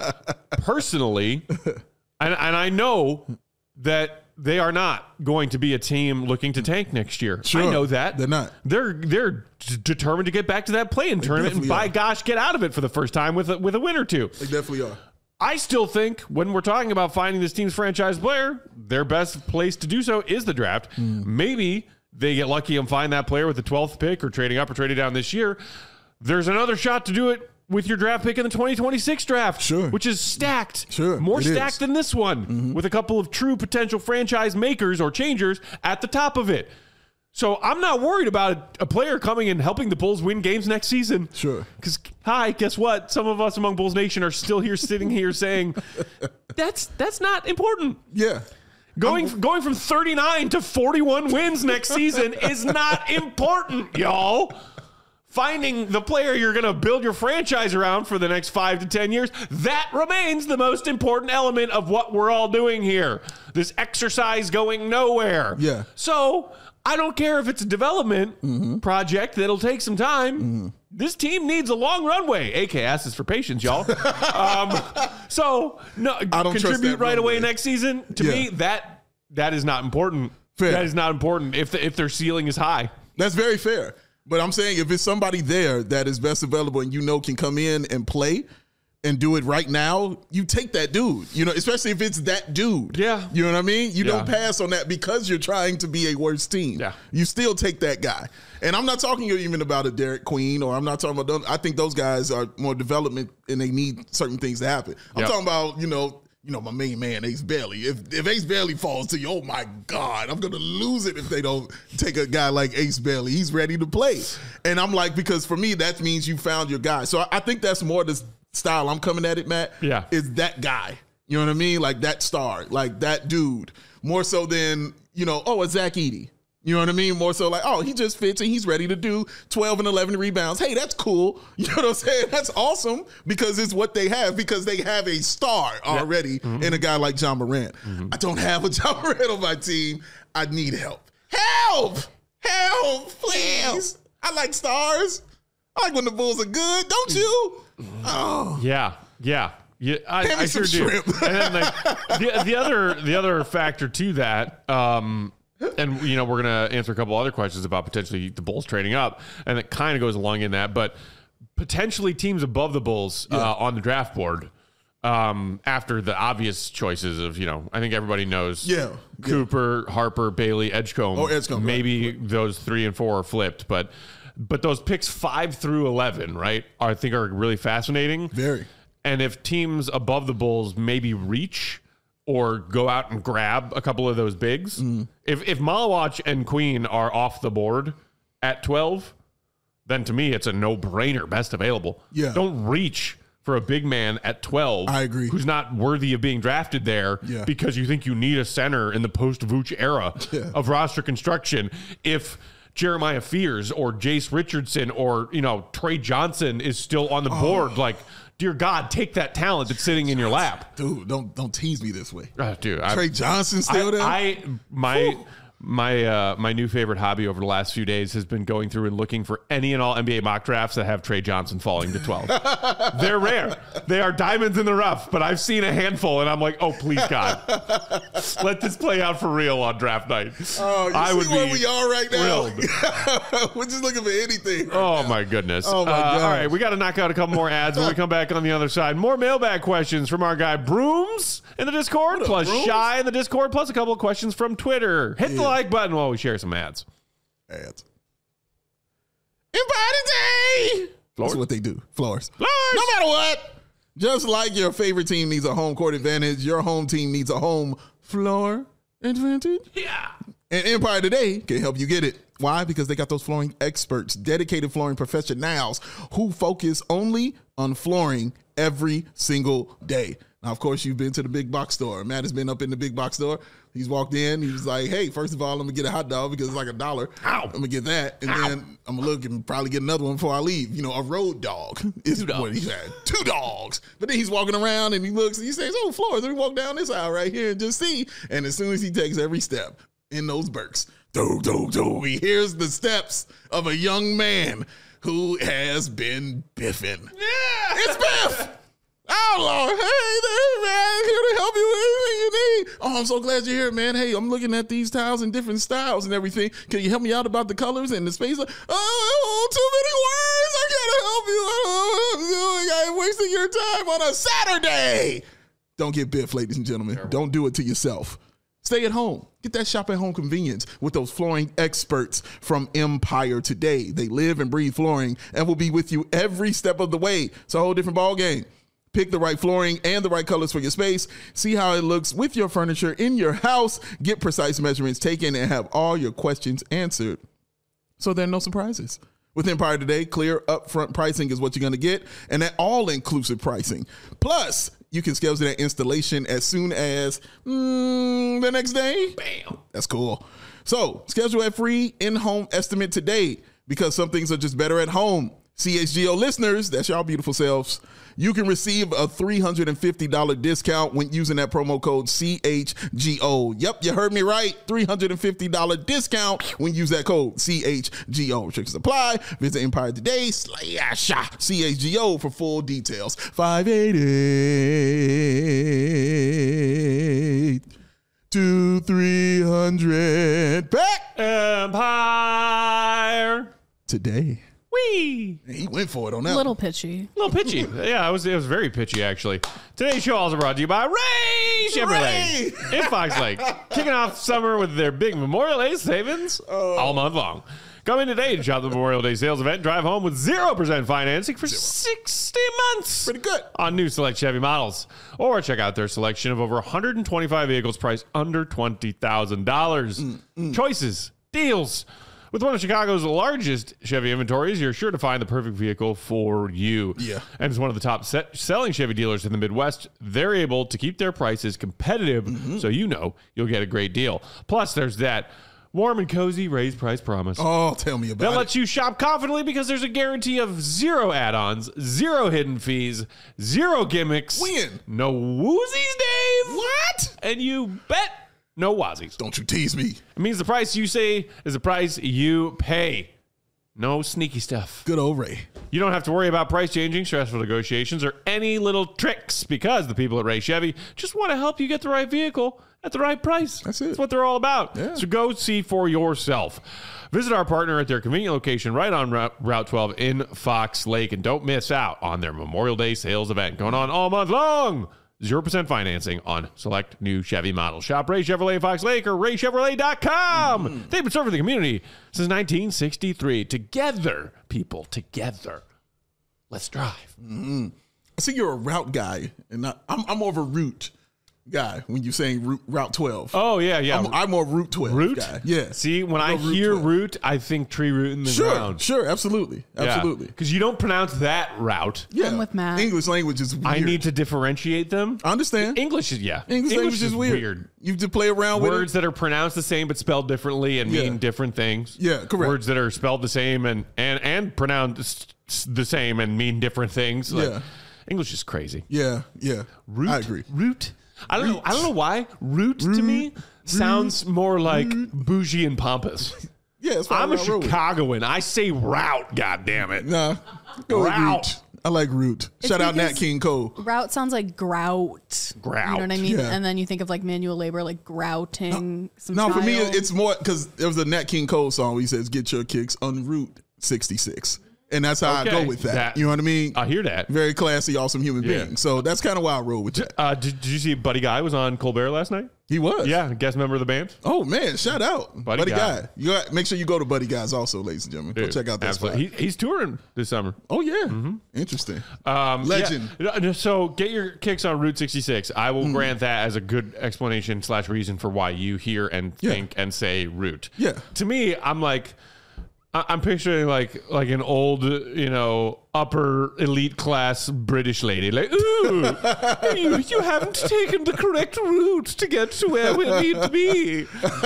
Personally, and, and I know that they are not going to be a team looking to tank next year. Sure, I know that. They're not. They're they're d- determined to get back to that play-in tournament and, by are. gosh, get out of it for the first time with a, with a win or two. They definitely are. I still think when we're talking about finding this team's franchise player, their best place to do so is the draft. Mm. Maybe they get lucky and find that player with the twelfth pick or trading up or trading down this year. There's another shot to do it with your draft pick in the twenty twenty-six draft, sure. which is stacked. Sure, More stacked is. than this one, mm-hmm. with a couple of true potential franchise makers or changers at the top of it. So I'm not worried about a player coming and helping the Bulls win games next season. Sure. Because, hi, guess what? Some of us among Bulls Nation are still here sitting here saying, that's that's not important. Yeah. Going I'm, going from thirty-nine to forty-one wins next season is not important, y'all. Finding the player you're going to build your franchise around for the next five to ten years, that remains the most important element of what we're all doing here. This exercise going nowhere. Yeah. So I don't care if it's a development mm-hmm. project that'll take some time. Mm-hmm. This team needs a long runway. A K asks for patience, y'all. um, so no, I don't contribute right runway. away next season. To yeah. me, that that is not important. Fair. That is not important if the, if their ceiling is high. That's very fair. But I'm saying if it's somebody there that is best available and you know can come in and play and do it right now, you take that dude, you know, especially if it's that dude. Yeah. You know what I mean? You yeah. don't pass on that because you're trying to be a worse team. Yeah. You still take that guy. And I'm not talking even about a Derek Queen, or I'm not talking about, I think those guys are more development and they need certain things to happen. I'm yep. talking about, you know, you know, my main man, Ace Bailey. If if Ace Bailey falls to you, oh my God, I'm going to lose it if they don't take a guy like Ace Bailey. He's ready to play. And I'm like, because for me, that means you found your guy. So I think that's more the style I'm coming at it, Matt. Yeah. Is that guy. You know what I mean? Like that star, like that dude. More so than, you know, oh, it's Zach Edey. You know what I mean? More so like, oh, he just fits and he's ready to do twelve and eleven rebounds. Hey, that's cool. You know what I'm saying? That's awesome because it's what they have, because they have a star already yeah. mm-hmm. in a guy like John Morant. Mm-hmm. I don't have a John Morant on my team. I need help. Help! Help, please. Help. I like stars. I like when the Bulls are good, don't you? Oh. Yeah, yeah. Yeah, I, I sure do. And then like, the, the other the other factor to that, um, and you know, we're gonna answer a couple other questions about potentially the Bulls trading up, and it kind of goes along in that, but potentially teams above the Bulls yeah. uh, on the draft board. Um, after the obvious choices of, you know, I think everybody knows yeah, Cooper, yeah. Harper, Bailey, Edgecombe. Oh, Edgecombe. Maybe right. those three and four are flipped, but but those picks five through eleven, right, are, I think are really fascinating. Very. And if teams above the Bulls maybe reach or go out and grab a couple of those bigs, mm. if if Malawach and Queen are off the board at twelve, then to me it's a no-brainer, best available. Yeah. Don't reach for a big man at twelve. I agree. Who's not worthy of being drafted there yeah. because you think you need a center in the post-Vooch era yeah. of roster construction. If Jeremiah Fears or Jace Richardson or, you know, Trey Johnson is still on the oh. board, like, dear God, take that talent that's sitting in your lap. Dude, don't don't tease me this way. Uh, dude, Trey I, Johnson still I, there? I my Whew. My uh, my new favorite hobby over the last few days has been going through and looking for any and all N B A mock drafts that have Trey Johnson falling to twelve. They're rare. They are diamonds in the rough, but I've seen a handful, and I'm like, oh, please, God. Let this play out for real on draft night. Oh, you I see would where be we are right now? thrilled. We're just looking for anything. Right Oh, now. my goodness. Oh, my Uh, God. all right, we got to knock out a couple more ads when we come back on the other side. More mailbag questions from our guy Brooms in the Discord, up, plus Brooms? Shy in the Discord, plus a couple of questions from Twitter. Hit the Yeah. like button while we share some ads. Ads. Empire Day! Floors? That's what they do. Floors. Floors! No matter what. Just like your favorite team needs a home court advantage, your home team needs a home floor advantage. Yeah. And Empire Today can help you get it. Why? Because they got those flooring experts, dedicated flooring professionals who focus only on flooring every single day. Now, of course, you've been to the big box store. Matt has been up in the big box store. He's walked in. He was like, hey, first of all, I'm going to get a hot dog because it's like a dollar. Ow. I'm going to get that. And Ow. then I'm going to look and probably get another one before I leave. You know, a road dog is Two dogs. what he had. Two dogs. But then he's walking around and he looks and he says, oh, floors. Let me walk down this aisle right here and just see. And as soon as he takes every step in those Birks, do, do, do, he hears the steps of a young man who has been biffing. Yeah. It's Biff! Oh, Lord. Hey there, man. Here to help you with anything you need. Oh, I'm so glad you're here, man. Hey, I'm looking at these tiles in different styles and everything. Can you help me out about the colors and the space? Oh, too many words. I can't help you. I don't know what I'm doing. I'm wasting your time on a Saturday. Don't get Biff, ladies and gentlemen. Terrible. Don't do it to yourself. Stay at home. Get that shop at home convenience with those flooring experts from Empire Today. They live and breathe flooring and will be with you every step of the way. It's a whole different ball game. Pick the right flooring and the right colors for your space. See how it looks with your furniture in your house. Get precise measurements taken and have all your questions answered so there are no surprises. With Empire Today, clear upfront pricing is what you're going to get, and that all-inclusive pricing. Plus, you can schedule that installation as soon as mm, the next day. Bam. That's cool. So, schedule a free in-home estimate today because some things are just better at home. C H G O listeners, that's y'all beautiful selves. You can receive a three hundred fifty dollars discount when using that promo code C H G O. Yep, you heard me right. three hundred fifty dollars discount when you use that code C H G O. Restrictions apply. Visit Empire Today slash C H G O for full details. five eighty-eight to three hundred. Back Empire. today. Wee. He went for it on that. A little pitchy. A little pitchy. Yeah, it was it was very pitchy, actually. Today's show also brought to you by Ray Chevrolet Ray! in Fox Lake. Kicking off summer with their big Memorial Day savings all month long. Come in today to shop the Memorial Day sales event. Drive home with zero percent financing for sixty months. Pretty good. On new select Chevy models. Or check out their selection of over one hundred twenty-five vehicles priced under twenty thousand dollars. Mm, Choices, deals. With one of Chicago's largest Chevy inventories, you're sure to find the perfect vehicle for you. Yeah. And as one of the top set selling Chevy dealers in the Midwest, they're able to keep their prices competitive, Mm-hmm. so you know you'll get a great deal. Plus, there's that warm and cozy raised price promise. Oh, tell me about That it. lets you shop confidently because there's a guarantee of zero add-ons, zero hidden fees, zero gimmicks. When? No woozies, Dave. What? And you bet no wazies. Don't you tease me. It means the price you say is the price you pay. No sneaky stuff. Good old Ray. You don't have to worry about price changing, stressful negotiations, or any little tricks because the people at Ray Chevy just want to help you get the right vehicle at the right price. That's it. That's what they're all about. Yeah. So go see for yourself. Visit our partner at their convenient location right on Route twelve in Fox Lake, and don't miss out on their Memorial Day sales event going on all month long. zero percent financing on select new Chevy models. Shop Ray Chevrolet Fox Lake or ray chevrolet dot com. Mm-hmm. They've been serving the community since nineteen sixty-three. Together, people, together. Let's drive. Mm-hmm. I see you're a route guy, and not, I'm, I'm more of a route guy when you're saying route, route twelve. Oh, yeah, yeah. I'm, I'm more route twelve Root? guy. Yeah. See, when I I'm a root hear twelve. root, I think tree root in the Sure, ground. sure, absolutely, absolutely. Because you don't pronounce that route. Yeah, I'm with Matt. English language is weird. I need to differentiate them. I understand. English is, yeah. English, language is weird. You have to play around with Words it. that are pronounced the same but spelled differently and Yeah. mean different things. Yeah, correct. Words that are spelled the same and and and pronounced s- the same and mean different things. Like, Yeah. English is crazy. Yeah, yeah. Root, I agree. Root. I don't know. I don't know why. Root to me sounds more like bougie and pompous. Yeah, that's I'm a I roll with. Chicagoan. I say route. God damn it. Nah, go with Route. root. I like root. It's Shout out Nat because King Cole. Route sounds like grout. Grout. You know what I mean? Yeah. And then you think of like manual labor, like grouting. some No, for me, tile. it's more because there was a Nat King Cole song where he says, "Get your kicks on Route sixty-six," and that's how I Okay. go with that. That- You know what I mean? I hear that. Very classy, awesome human Yeah. being. So that's kind of why I roll with that. Uh, did, did you see Buddy Guy was on Colbert last night? He was. Yeah, guest member of the band. Oh man, shout out, Buddy Buddy, Guy. Guy. You got, make sure you go to Buddy Guys also, ladies and gentlemen. Go Dude, check out that spot. absolutely. He, he's touring this summer. Oh yeah, interesting. Um, Legend. yeah. No, So get your kicks on Route sixty-six. I will grant that as a good explanation slash reason for why you hear and Yeah. think and say route. Yeah. To me, I'm like, I- I'm picturing like like an old, you know, upper elite class British lady. Like, ooh, you, you haven't taken the correct route to get to where we need to be.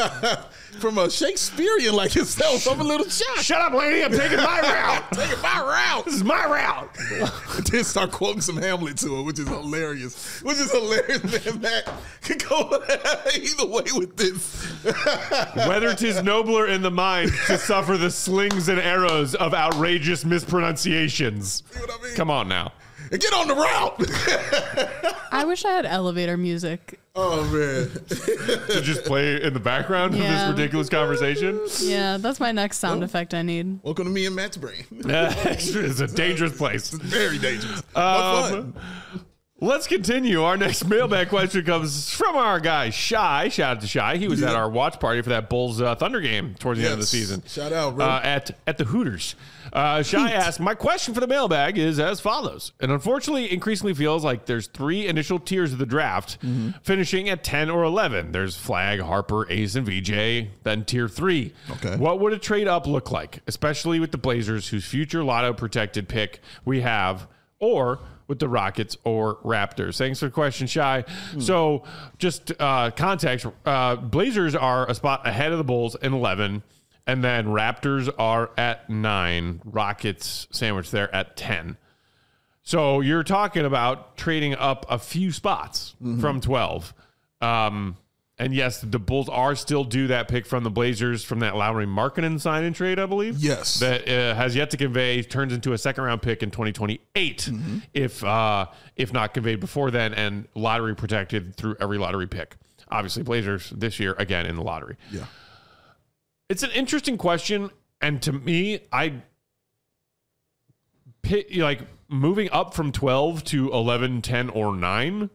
From a Shakespearean like yourself, I'm a little shocked. Shut up, lady. I'm taking my route. Taking my route. This is my route. Then start quoting some Hamlet to her, which is hilarious. Which is hilarious, man. Matt could go either way with this. Whether 'tis nobler in the mind to suffer the slings and arrows of outrageous mispronunciations. See what I mean? Come on now. And get on the route. I wish I had elevator music. Oh man. To just play in the background Yeah. of this ridiculous conversation. Yeah, that's my next sound effect I need. Welcome to me and Matt's brain. It's a dangerous place. Very dangerous. But fun. Um, let's continue. Our next mailbag question comes from our guy, Shy. Shout out to Shy. He was Yeah. at our watch party for that Bulls uh, Thunder game towards the end of the Yes. season. Shout out, bro. Uh, at, at the Hooters. Uh, Shy asked, my question for the mailbag is as follows. And unfortunately, increasingly feels like there's three initial tiers of the draft, Mm-hmm. finishing at ten or eleven. There's Flag, Harper, Ace, and V J. Then tier three. Okay. What would a trade up look like, especially with the Blazers, whose future lotto protected pick we have, or with the Rockets or Raptors? Thanks for the question, Shy. Hmm. So just uh, context, uh, Blazers are a spot ahead of the Bulls in eleven, and then Raptors are at nine, Rockets sandwiched there at ten. So you're talking about trading up a few spots Mm-hmm. from twelve. Um, and yes, the Bulls are still due that pick from the Blazers from that Lowry Markkanen sign and trade, I believe. Yes. That uh, has yet to convey, turns into a second round pick in twenty twenty-eight, Mm-hmm. if uh, if not conveyed before then, and lottery protected through every lottery pick. Obviously, Blazers this year again in the lottery. Yeah. It's an interesting question, and to me, I pit, like moving up from twelve to eleven, ten, or nine.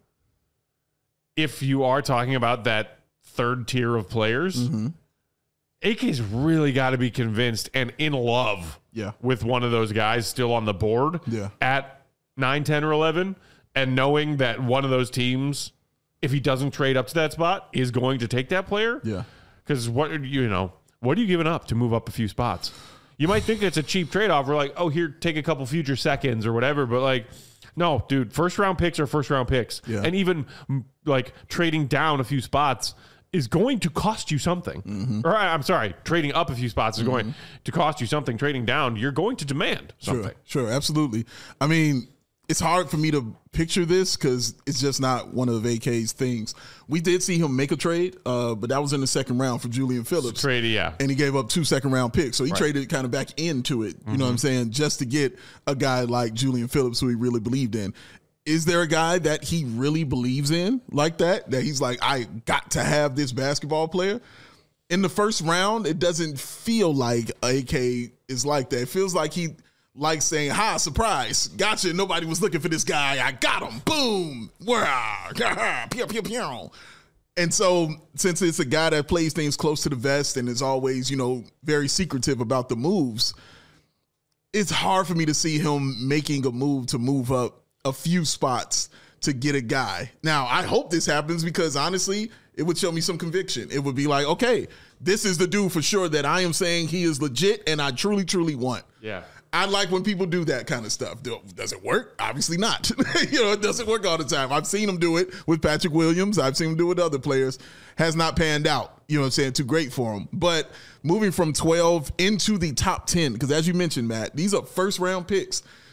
If you are talking about that third tier of players, Mm-hmm. A K's really got to be convinced and in love Yeah. with one of those guys still on the board Yeah. at nine, ten, or eleven, and knowing that one of those teams, if he doesn't trade up to that spot, is going to take that player. Yeah. Because what are you know, what are you giving up to move up a few spots? You might think it's a cheap trade off. We're like, oh, here, take a couple future seconds or whatever. But like, no, dude, first round picks are first round picks. Yeah. And even mm, like trading down a few spots is going to cost you something. Mm-hmm. Or I- I'm sorry, trading up a few spots is going to cost you something. Trading down, you're going to demand something. Sure, sure, absolutely. I mean, it's hard for me to picture this because it's just not one of A K's things. We did see him make a trade, uh, but that was in the second round for Julian Phillips. Trade, yeah. And he gave up two second round picks. So he traded kind of back into it, you know what I'm saying, just to get a guy like Julian Phillips who he really believed in. Is there a guy that he really believes in like that? That he's like, I got to have this basketball player? In the first round, it doesn't feel like A K is like that. It feels like he likes saying, ha, surprise, gotcha, nobody was looking for this guy. I got him. Boom. Wah, pew, pew, pew. And so since it's a guy that plays things close to the vest and is always, you know, very secretive about the moves, it's hard for me to see him making a move to move up a few spots to get a guy. Now, I hope this happens because honestly, it would show me some conviction. It would be like, okay, this is the dude for sure that I am saying he is legit and I truly, truly want. Yeah. I like when people do that kind of stuff. Do- Does it work? Obviously not. You know, it doesn't work all the time. I've seen him do it with Patrick Williams. I've seen him do it with other players. Has not panned out. You know what I'm saying? Too great for him. But moving from twelve into the top ten, because as you mentioned, Matt, these are first round picks.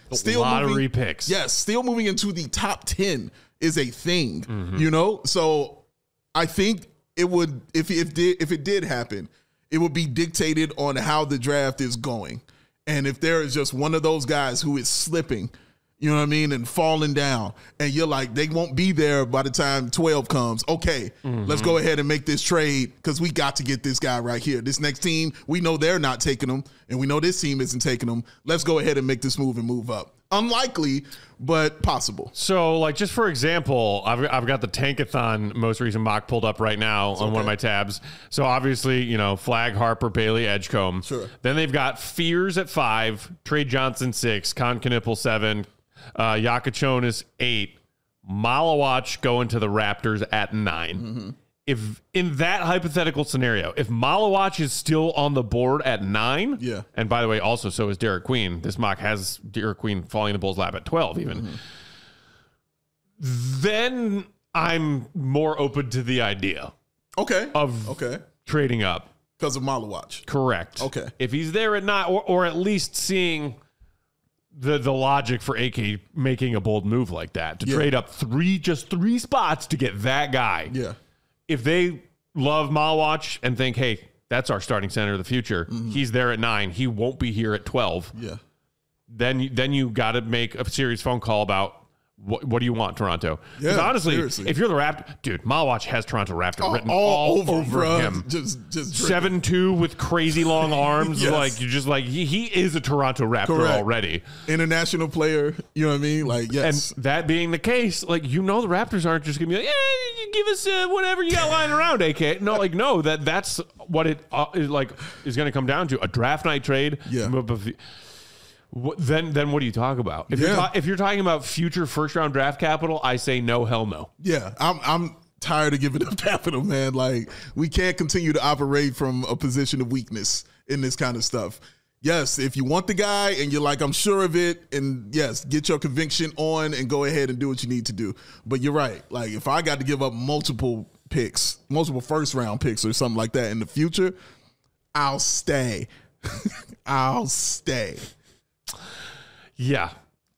Still lottery moving, picks. Yes, still moving into the top ten is a thing, Mm-hmm. you know? So I think it would, if, if, did, if it did happen, it would be dictated on how the draft is going. And if there is just one of those guys who is slipping, you know what I mean, and falling down, and you're like, they won't be there by the time twelve comes. Okay, Mm-hmm. let's go ahead and make this trade because we got to get this guy right here. This next team, we know they're not taking him, and we know this team isn't taking him. Let's go ahead and make this move and move up. Unlikely, but possible. So, like, just for example, I've, I've got the Tankathon most recent mock pulled up right now on one of my tabs. So, obviously, you know, Flag, Harper, Bailey, Edgecombe. Sure. Then they've got Fears at five, Trey Johnson six, Con Knipple seven, uh, Yakachonis eight, Malawach going to the Raptors at nine. Mm-hmm. If in that hypothetical scenario, if Malawach is still on the board at nine, Yeah. and by the way, also so is Derek Queen. This mock has Derek Queen falling in the Bulls' lap at twelve, even. Mm-hmm. Then I'm more open to the idea Okay. of Okay. trading up. Because of Malawach. Correct. Okay. If he's there at nine, or, or at least seeing the the logic for A K making a bold move like that to Yeah. trade up three, just three spots to get that guy. Yeah. If they love Malawach and think, hey, that's our starting center of the future, Mm-hmm. he's there at nine, he won't be here at twelve. Yeah. Then you, then you got to make a serious phone call about what what do you want, Toronto? Because Yeah, honestly, seriously. if you're the Raptor, dude, Malawach has Toronto Raptor All, written all all, over, over bro. him. Just, just dripping. Seven two with crazy long arms, Yes. like you're just like he, he is a Toronto Raptor Correct. already. International player. You know what I mean? Like, yes. And that being the case, like you know, the Raptors aren't just gonna be like, yeah, you give us uh, whatever you got lying around, A K. No, like no, that that's what it uh, is like is gonna come down to a draft night trade. Yeah. But- but- What, then, then what do you talk about? If you're Yeah. ta- if you're talking about future first round draft capital, I say no, hell no. Yeah, I'm I'm tired of giving up capital, man. Like, we can't continue to operate from a position of weakness in this kind of stuff. Yes, if you want the guy and you're like, I'm sure of it, and yes, get your conviction on and go ahead and do what you need to do. But you're right. Like, if I got to give up multiple picks, multiple first round picks or something like that in the future, I'll stay. I'll stay. Yeah.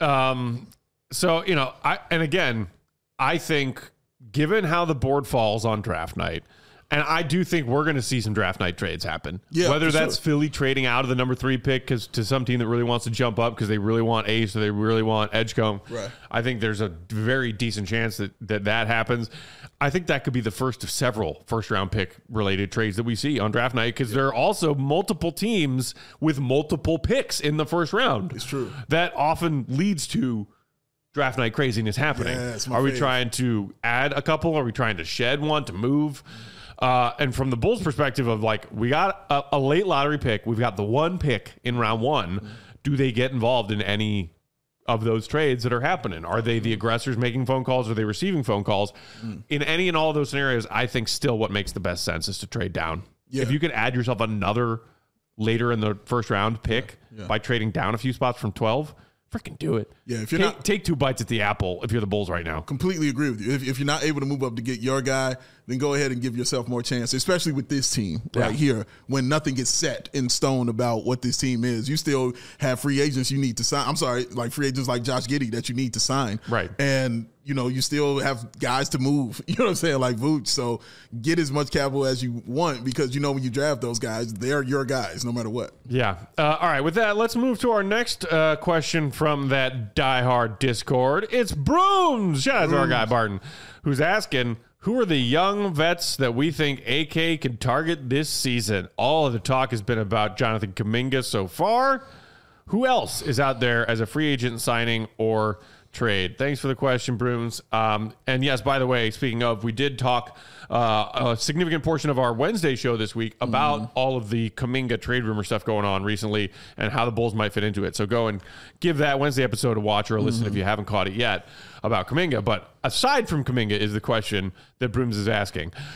Um, so, you know, I and again, I think given how the board falls on draft night, and I do think we're going to see some draft night trades happen. Yeah, Whether for that's sure. Philly trading out of the number three pick because to some team that really wants to jump up because they really want Ace or they really want Edgecombe. Right. I think there's a very decent chance that that, that happens. I think that could be the first of several first round pick related trades that we see on draft night because there are also multiple teams with multiple picks in the first round. It's true. That often leads to draft night craziness happening. Yeah, it's my Are we fave. trying to add a couple? Are we trying to shed one to move? Uh, and from the Bulls' perspective of like, we got a, a late lottery pick. We've got the one pick in round one. Do they get involved in any of those trades that are happening? Are they the aggressors making phone calls? Are they receiving phone calls? In any and all of those scenarios, I think still what makes the best sense is to trade down. Yeah. If you could add yourself another later in the first round pick Yeah, yeah. by trading down a few spots from twelve, freaking do it. Yeah, if you're take, not- take two bites at the apple if you're the Bulls right now. Completely agree with you. If, if you're not able to move up to get your guy, then go ahead and give yourself more chance, especially with this team right Yeah. here when nothing gets set in stone about what this team is. You still have free agents you need to sign. I'm sorry, like free agents like Josh Giddey that you need to sign. Right. And, you know, you still have guys to move, you know what I'm saying, like Vooch. So get as much capital as you want because, you know, when you draft those guys, they're your guys no matter what. Yeah. Uh, all right. With that, let's move to our next uh, question from that diehard Discord. It's Brooms. Shout out to our guy Barton, who's asking, who are the young vets that we think A K can target this season? All of the talk has been about Jonathan Kuminga so far. Who else is out there as a free agent signing or trade? Thanks for the question, Brooms. Um, and yes, by the way, speaking of, we did talk uh, a significant portion of our Wednesday show this week about mm. all of the Kuminga trade rumor stuff going on recently and how the Bulls might fit into it. So go and give that Wednesday episode a watch or a listen mm-hmm. if you haven't caught it yet about Kuminga. But aside from Kuminga is the question that Brooms is asking.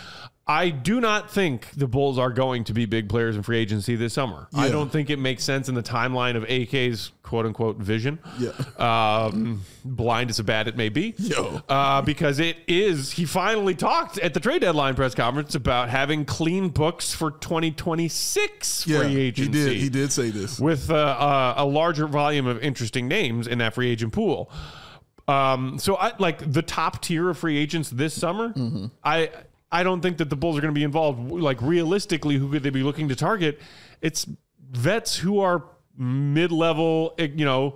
I do not think the Bulls are going to be big players in free agency this summer. Yeah. I don't think it makes sense in the timeline of A K's quote unquote vision. Yeah. Um, blind as a bat it may be. Yo. Uh, because it is, he finally talked at the trade deadline press conference about having clean books for twenty twenty-six Yeah, free agency. he did. He did say this. With uh, uh, a larger volume of interesting names in that free agent pool. Um, so I like the top tier of free agents this summer. Mm-hmm. I I don't think that the Bulls are going to be involved. Like realistically, who could they be looking to target? It's vets who are mid-level, you know,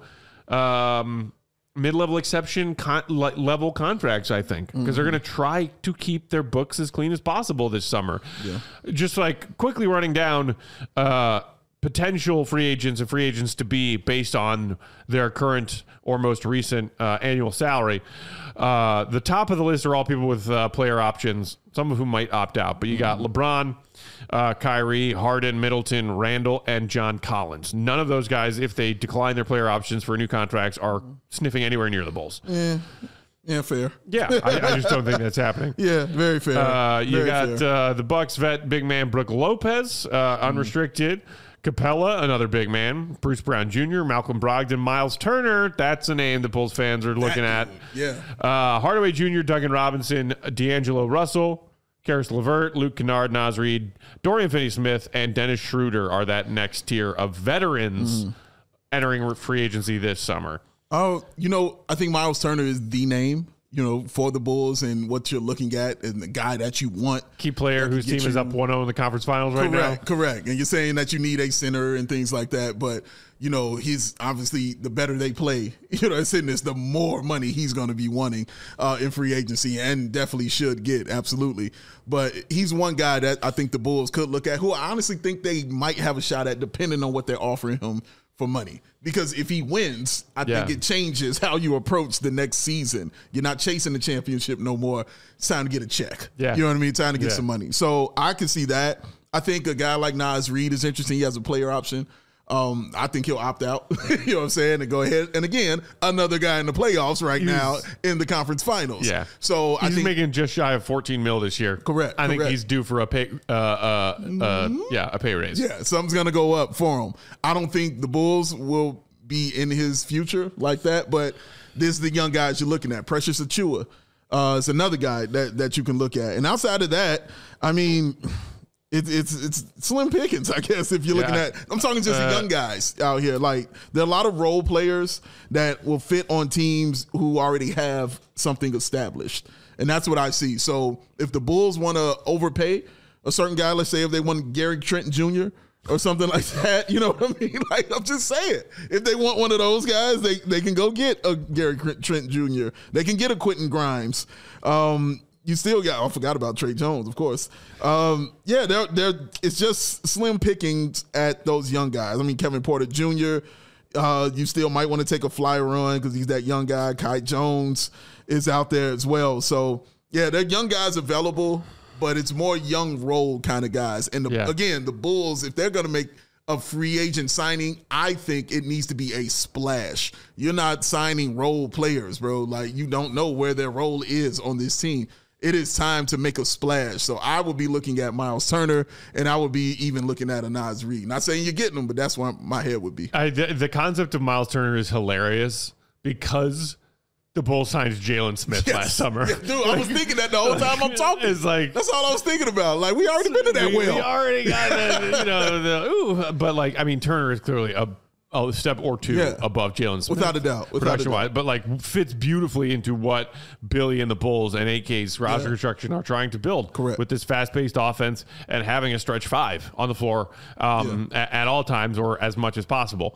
um, mid-level exception con- level contracts, I think, because mm-hmm. they're going to try to keep their books as clean as possible this summer. Yeah. Just like quickly running down uh, potential free agents and free agents to be based on their current or most recent uh, annual salary. Uh, the top of the list are all people with uh, player options, some of whom might opt out. But you got mm-hmm. LeBron, uh, Kyrie, Harden, Middleton, Randall, and John Collins. None of those guys, if they decline their player options for new contracts, are sniffing anywhere near the Bulls. Yeah, yeah, fair. Yeah, I, I just don't think that's happening. Yeah, very fair. Uh, you very got uh, the Bucks vet big man Brook Lopez, uh, unrestricted. Mm-hmm. Capella, another big man. Bruce Brown Junior, Malcolm Brogdon, Miles Turner. That's a name the Bulls fans are looking that, at. Yeah. Uh, Hardaway Junior, Duncan Robinson, D'Angelo Russell, Karis LeVert, Luke Kennard, Naz Reid, Dorian Finney-Smith, and Dennis Schroeder are that next tier of veterans mm. entering free agency this summer. Oh, you know, I think Miles Turner is the name, you know, for the Bulls and what you're looking at and the guy that you want. Key player whose team you, is up one oh in the conference finals right correct, now. Correct. And you're saying that you need a center and things like that. But, you know, he's obviously the better they play, you know, it's in this, the more money he's going to be wanting uh, in free agency and definitely should get. Absolutely. But he's one guy that I think the Bulls could look at who I honestly think they might have a shot at depending on what they're offering him for money. Because if he wins, I yeah. think it changes how you approach the next season. You're not chasing the championship no more. It's time to get a check. Yeah. You know what I mean? Time to get yeah. some money. So I can see that. I think a guy like Naz Reid is interesting. He has a player option. Um, I think he'll opt out, you know what I'm saying, and go ahead. And again, another guy in the playoffs right he's, now in the conference finals. Yeah. So he's I think making just shy of fourteen mil this year. Correct. I think correct. he's due for a pay, uh, uh, mm-hmm. uh, yeah, a pay raise. Yeah, something's gonna go up for him. I don't think the Bulls will be in his future like that, but this is the young guys you're looking at. Precious Achiuwa uh, is another guy that that you can look at. And outside of that, I mean. It, it's it's slim pickings, I guess, if you're looking yeah. at. I'm talking just uh, the young guys out here. Like, there are a lot of role players that will fit on teams who already have something established. And that's what I see. So if the Bulls want to overpay a certain guy, let's say if they want Gary Trent Junior or something like that, you know what I mean? Like, I'm just saying, if they want one of those guys, they, they can go get a Gary Trent Junior They can get a Quentin Grimes. Um, You still got, I forgot about Trey Jones, of course. Um, yeah, they're, they're, it's just slim pickings at those young guys. I mean, Kevin Porter Junior, uh, you still might want to take a fly run because he's that young guy. Kai Jones is out there as well. So, yeah, they're young guys available, but it's more young role kind of guys. And, the, yeah. again, the Bulls, if they're going to make a free agent signing, I think it needs to be a splash. You're not signing role players, bro. Like, you don't know where their role is on this team. It is time to make a splash. So I would be looking at Miles Turner, and I would be even looking at a Naz Reid. Not saying you're getting him, but that's where my head would be. I, the, the concept of Miles Turner is hilarious because the Bulls signed Jalen Smith yes. last summer. Yeah, dude, like, I was thinking that the whole time I'm talking. It's like, that's all I was thinking about. Like, we already been to that we, well. We already got the, you know, the, ooh. But, like, I mean, Turner is clearly a a step or two yeah. above Jalen Smith. Without a doubt. Production wise, but like fits beautifully into what Billy and the Bulls and A K's roster yeah. construction are trying to build. Correct. With this fast paced offense and having a stretch five on the floor um, yeah. at, at all times or as much as possible.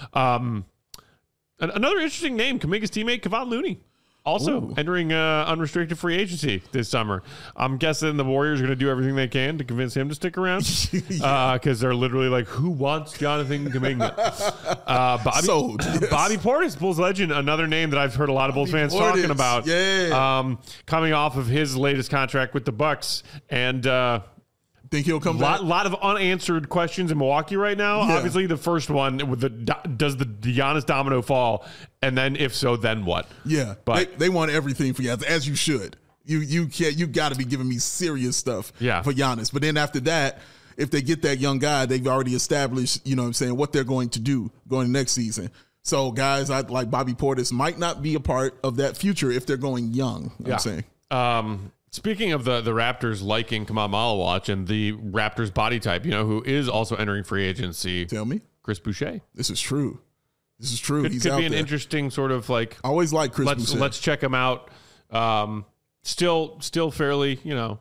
Um, another interesting name, Kuminga's teammate, Kevon Looney. Also Ooh. entering uh, unrestricted free agency this summer. I'm guessing the Warriors are going to do everything they can to convince him to stick around because yeah. uh, they're literally like, who wants Jonathan Kuminga? uh, Bobby, Sold, yes. Bobby Portis, Bulls legend, another name that I've heard a lot of Bulls Bobby fans Portis. talking about. Yeah. Um, coming off of his latest contract with the Bucks. And uh, think he'll come lot, back? lot of unanswered questions in Milwaukee right now. Yeah. Obviously, the first one with the does the Giannis domino fall, and then if so, then what? Yeah, but they, they want everything for you, as you should. You you can't you got to be giving me serious stuff Yeah. for Giannis. But then after that, if they get that young guy, they've already established, you know what I'm saying, what they're going to do going next season. So guys I, like Bobby Portis might not be a part of that future if they're going young, you know Yeah. I'm saying. Um, speaking of the, the Raptors liking Kamal Malawach and the Raptors body type, you know, who is also entering free agency, Tell me. Chris Boucher. This is true. This is true. Could, He's could out be an there. interesting sort of like, I always like Chris let's Boucher. let's check him out. Um, still, still fairly, you know,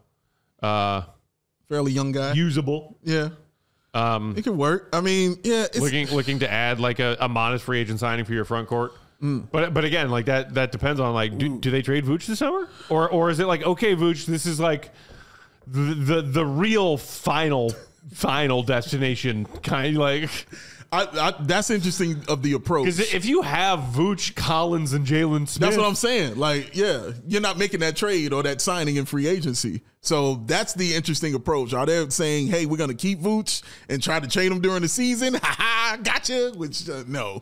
uh, Fairly young guy. usable. yeah. Um, It could work. I mean, yeah. It's, looking looking to add like a, a modest free agent signing for your front court. Mm. But but again, like that that depends on like do, do they trade Vooch this summer or or is it like okay Vooch, this is like the the, the real final final destination kind of like. I, I, that's interesting of the approach. Because if you have Vooch, Collins, and Jalen Smith, That's what I'm saying. Like, yeah, you're not making that trade or that signing in free agency. So that's the interesting approach. Are they saying, hey, we're going to keep Vooch and try to trade him during the season? Ha ha, gotcha. Which, uh, no.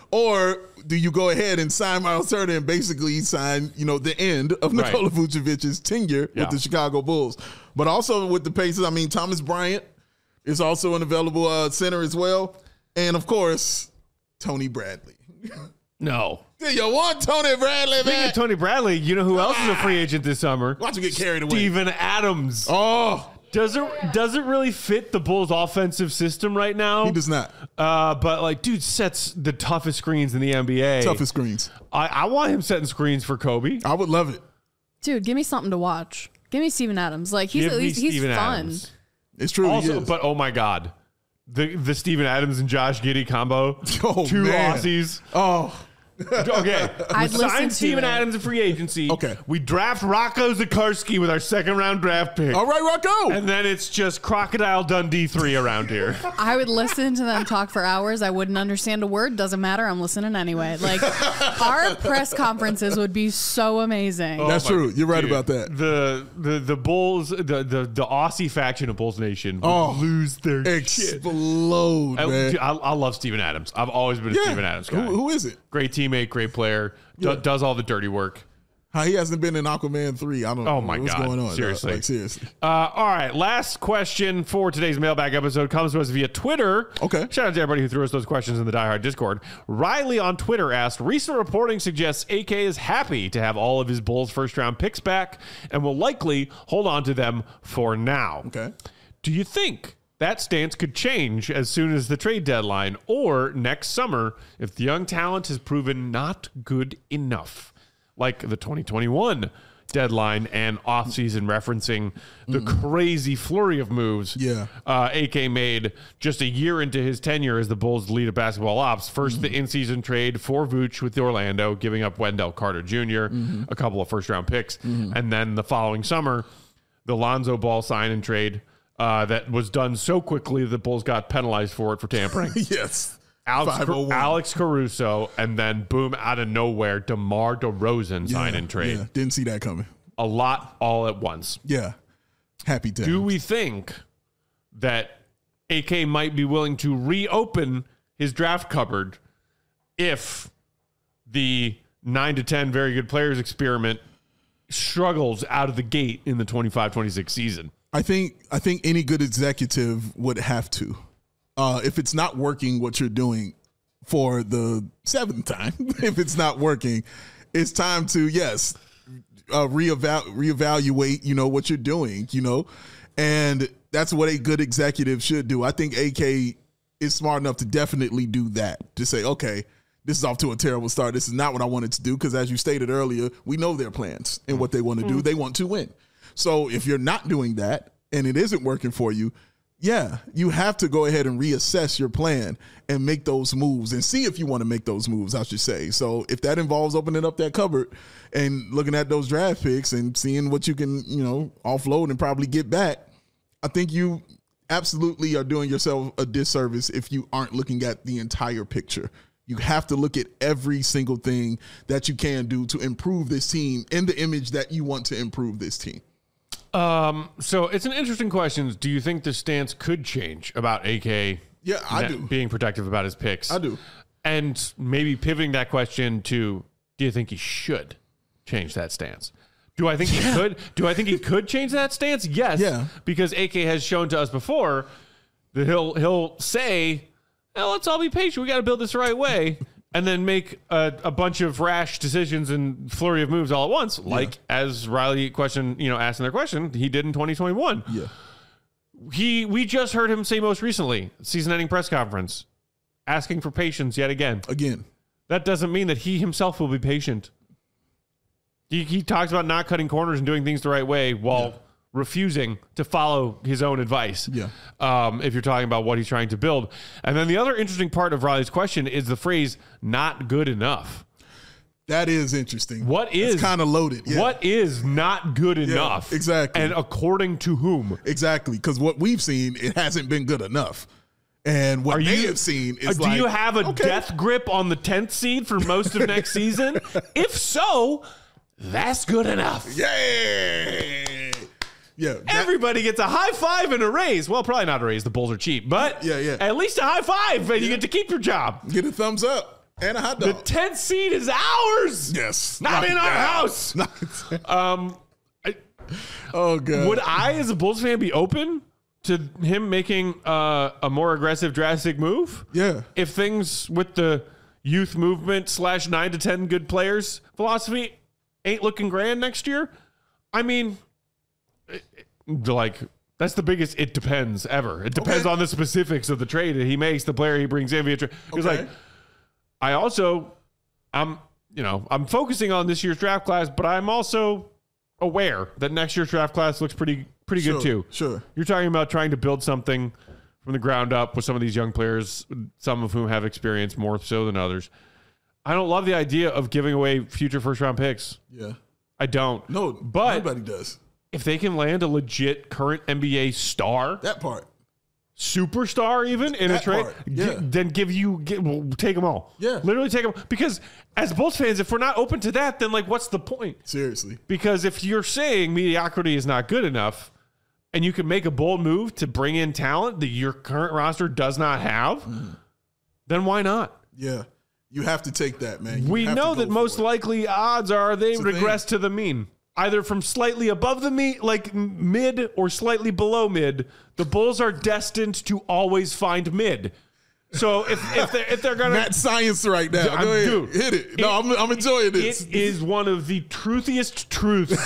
Or do you go ahead and sign Miles Turner and basically sign, you know, the end of Right. Nikola Vucevic's tenure Yeah. with the Chicago Bulls? But also with the Pacers, I mean, Thomas Bryant is also an available uh, center as well. And, of course, Tony Bradley. no. Do you want Tony Bradley Speaking back? of Tony Bradley, you know who else is a free agent this summer? Watch him get carried away. Steven Adams. Oh, Doesn't doesn't really fit the Bulls' offensive system right now. he does not. Uh, but like, dude sets the toughest screens in the N B A. Toughest screens. I, I want him setting screens for Kobe. I would love it. Dude, give me something to watch. Give me Steven Adams. Like he's Give at me least he's Steven fun. Adams. It's true. he Also, is. but oh my god, the the Steven Adams and Josh Giddey combo, Oh, two man. Aussies. oh, Okay, I'd we listen sign to Steven it. Adams in free agency. Okay. we draft Rocco Zakarsky with our second round draft pick. all right, Rocco. And then it's just Crocodile Dundee three around here. I would listen to them talk for hours. I wouldn't understand a word. Doesn't matter. I'm listening anyway. Like our press conferences would be so amazing. Oh That's my- true. You're right dude, about that. The the the Bulls, the the, the Aussie faction of Bulls Nation would Oh, lose their shit. Explode, I, man. dude, I, I love Steven Adams. I've always been a yeah. Steven Adams guy. Who, who is it? Great teammate, great player, do, Yeah. does all the dirty work. How he hasn't been in Aquaman three. I don't Oh know my what's God. going on. dog. Seriously. Like, seriously. Uh, all right, last question for today's mailbag episode comes to us via Twitter. Okay. Shout out to everybody who threw us those questions in the Die Hard Discord. Riley on Twitter asked, recent reporting suggests A K is happy to have all of his Bulls first round picks back and will likely hold on to them for now. Okay. Do you think that stance could change as soon as the trade deadline or next summer if the young talent has proven not good enough? Like the twenty twenty-one deadline and offseason referencing the crazy flurry of moves Yeah. uh, A K made just a year into his tenure as the Bulls' lead of basketball ops. First, the in-season trade for Vooch with Orlando, giving up Wendell Carter Junior, a couple of first-round picks. And then the following summer, the Lonzo Ball sign and trade uh, that was done so quickly the Bulls got penalized for it for tampering. Yes. Alex, five oh one. Alex Caruso, and then boom, out of nowhere, DeMar DeRozan sign Yeah, and trade. Yeah. Didn't see that coming. A lot all at once. Yeah. Happy to. Do we think that A K might be willing to reopen his draft cupboard if the nine to ten very good players experiment struggles out of the gate in the twenty-five twenty-six season? I think I think any good executive would have to. Uh, if it's not working, what you're doing for the seventh time, if it's not working, it's time to, yes, uh, reeval- reevaluate, you know, what you're doing, you know, and that's what a good executive should do. I think A K is smart enough to definitely do that, to say, okay, this is off to a terrible start. This is not what I wanted to do because, as you stated earlier, we know their plans and what they want to do. They want to win. So if you're not doing that and it isn't working for you, yeah, you have to go ahead and reassess your plan and make those moves and see if you want to make those moves, I should say. So if that involves opening up that cupboard and looking at those draft picks and seeing what you can, you know, offload and probably get back, I think you absolutely are doing yourself a disservice if you aren't looking at the entire picture. You have to look at every single thing that you can do to improve this team in the image that you want to improve this team. Um, so it's an interesting question. Do you think the stance could change about A K? Yeah, I na- do. Being protective about his picks. I do. And maybe pivoting that question to, do you think he should change that stance? Do I think yeah. he could? Do I think he could change that stance? Yes. Yeah. Because A K has shown to us before that he'll he'll say, well, let's all be patient. We got to build this the right way. And then make a, a bunch of rash decisions and flurry of moves all at once, like yeah. as Riley question, you know, asking their question, he did in twenty twenty-one. Yeah. He we just heard him say most recently, season-ending press conference, asking for patience yet again. Again. That doesn't mean that he himself will be patient. He, he talks about not cutting corners and doing things the right way while yeah. refusing to follow his own advice. Yeah. Um, if you're talking about what he's trying to build. And then the other interesting part of Riley's question is the phrase "not good enough." That is interesting. What is kind of loaded? Yeah. What is not good enough? Yeah, exactly. And according to whom? Exactly. Because what we've seen, it hasn't been good enough. And what Are they you, have seen is do like, you have a okay. death grip on the tenth seed for most of next season? If so, that's good enough. Yay! Yeah, that, everybody gets a high five and a raise. Well, probably not a raise. The Bulls are cheap, but yeah, yeah. at least a high five, and yeah. you get to keep your job. Get a thumbs up and a hot dog. The tenth seed is ours. Yes, not in our house. um, I, oh god. Would I, as a Bulls fan, be open to him making uh, a more aggressive, drastic move? Yeah. If things with the youth movement slash nine to ten good players philosophy ain't looking grand next year, I mean. Like, that's the biggest it depends ever. It depends okay. on the specifics of the trade that he makes, the player he brings in via trade. Because, okay. like, I also, I'm, you know, I'm focusing on this year's draft class, but I'm also aware that next year's draft class looks pretty, pretty sure, good too. Sure. You're talking about trying to build something from the ground up with some of these young players, some of whom have experience more so than others. I don't love the idea of giving away future first round picks. Yeah. I don't. No, but nobody does. If they can land a legit current N B A star, that part, superstar even in that a trade, part, yeah. g- then give you get, well, take them all. Yeah, literally take them. Because as Bulls fans, if we're not open to that, then like, what's the point? Seriously. Because if you're saying mediocrity is not good enough, and you can make a bold move to bring in talent that your current roster does not have, mm. then why not? Yeah. You have to take that, man. You we know that most it. likely odds are they it's regress to the mean. Either from slightly above the mean, like mid, or slightly below mid. The Bulls are destined to always find mid. So if if they're, if they're gonna Matt science right now, go ahead, dude, hit it. No, it, I'm I'm enjoying this. It is one of the truthiest truths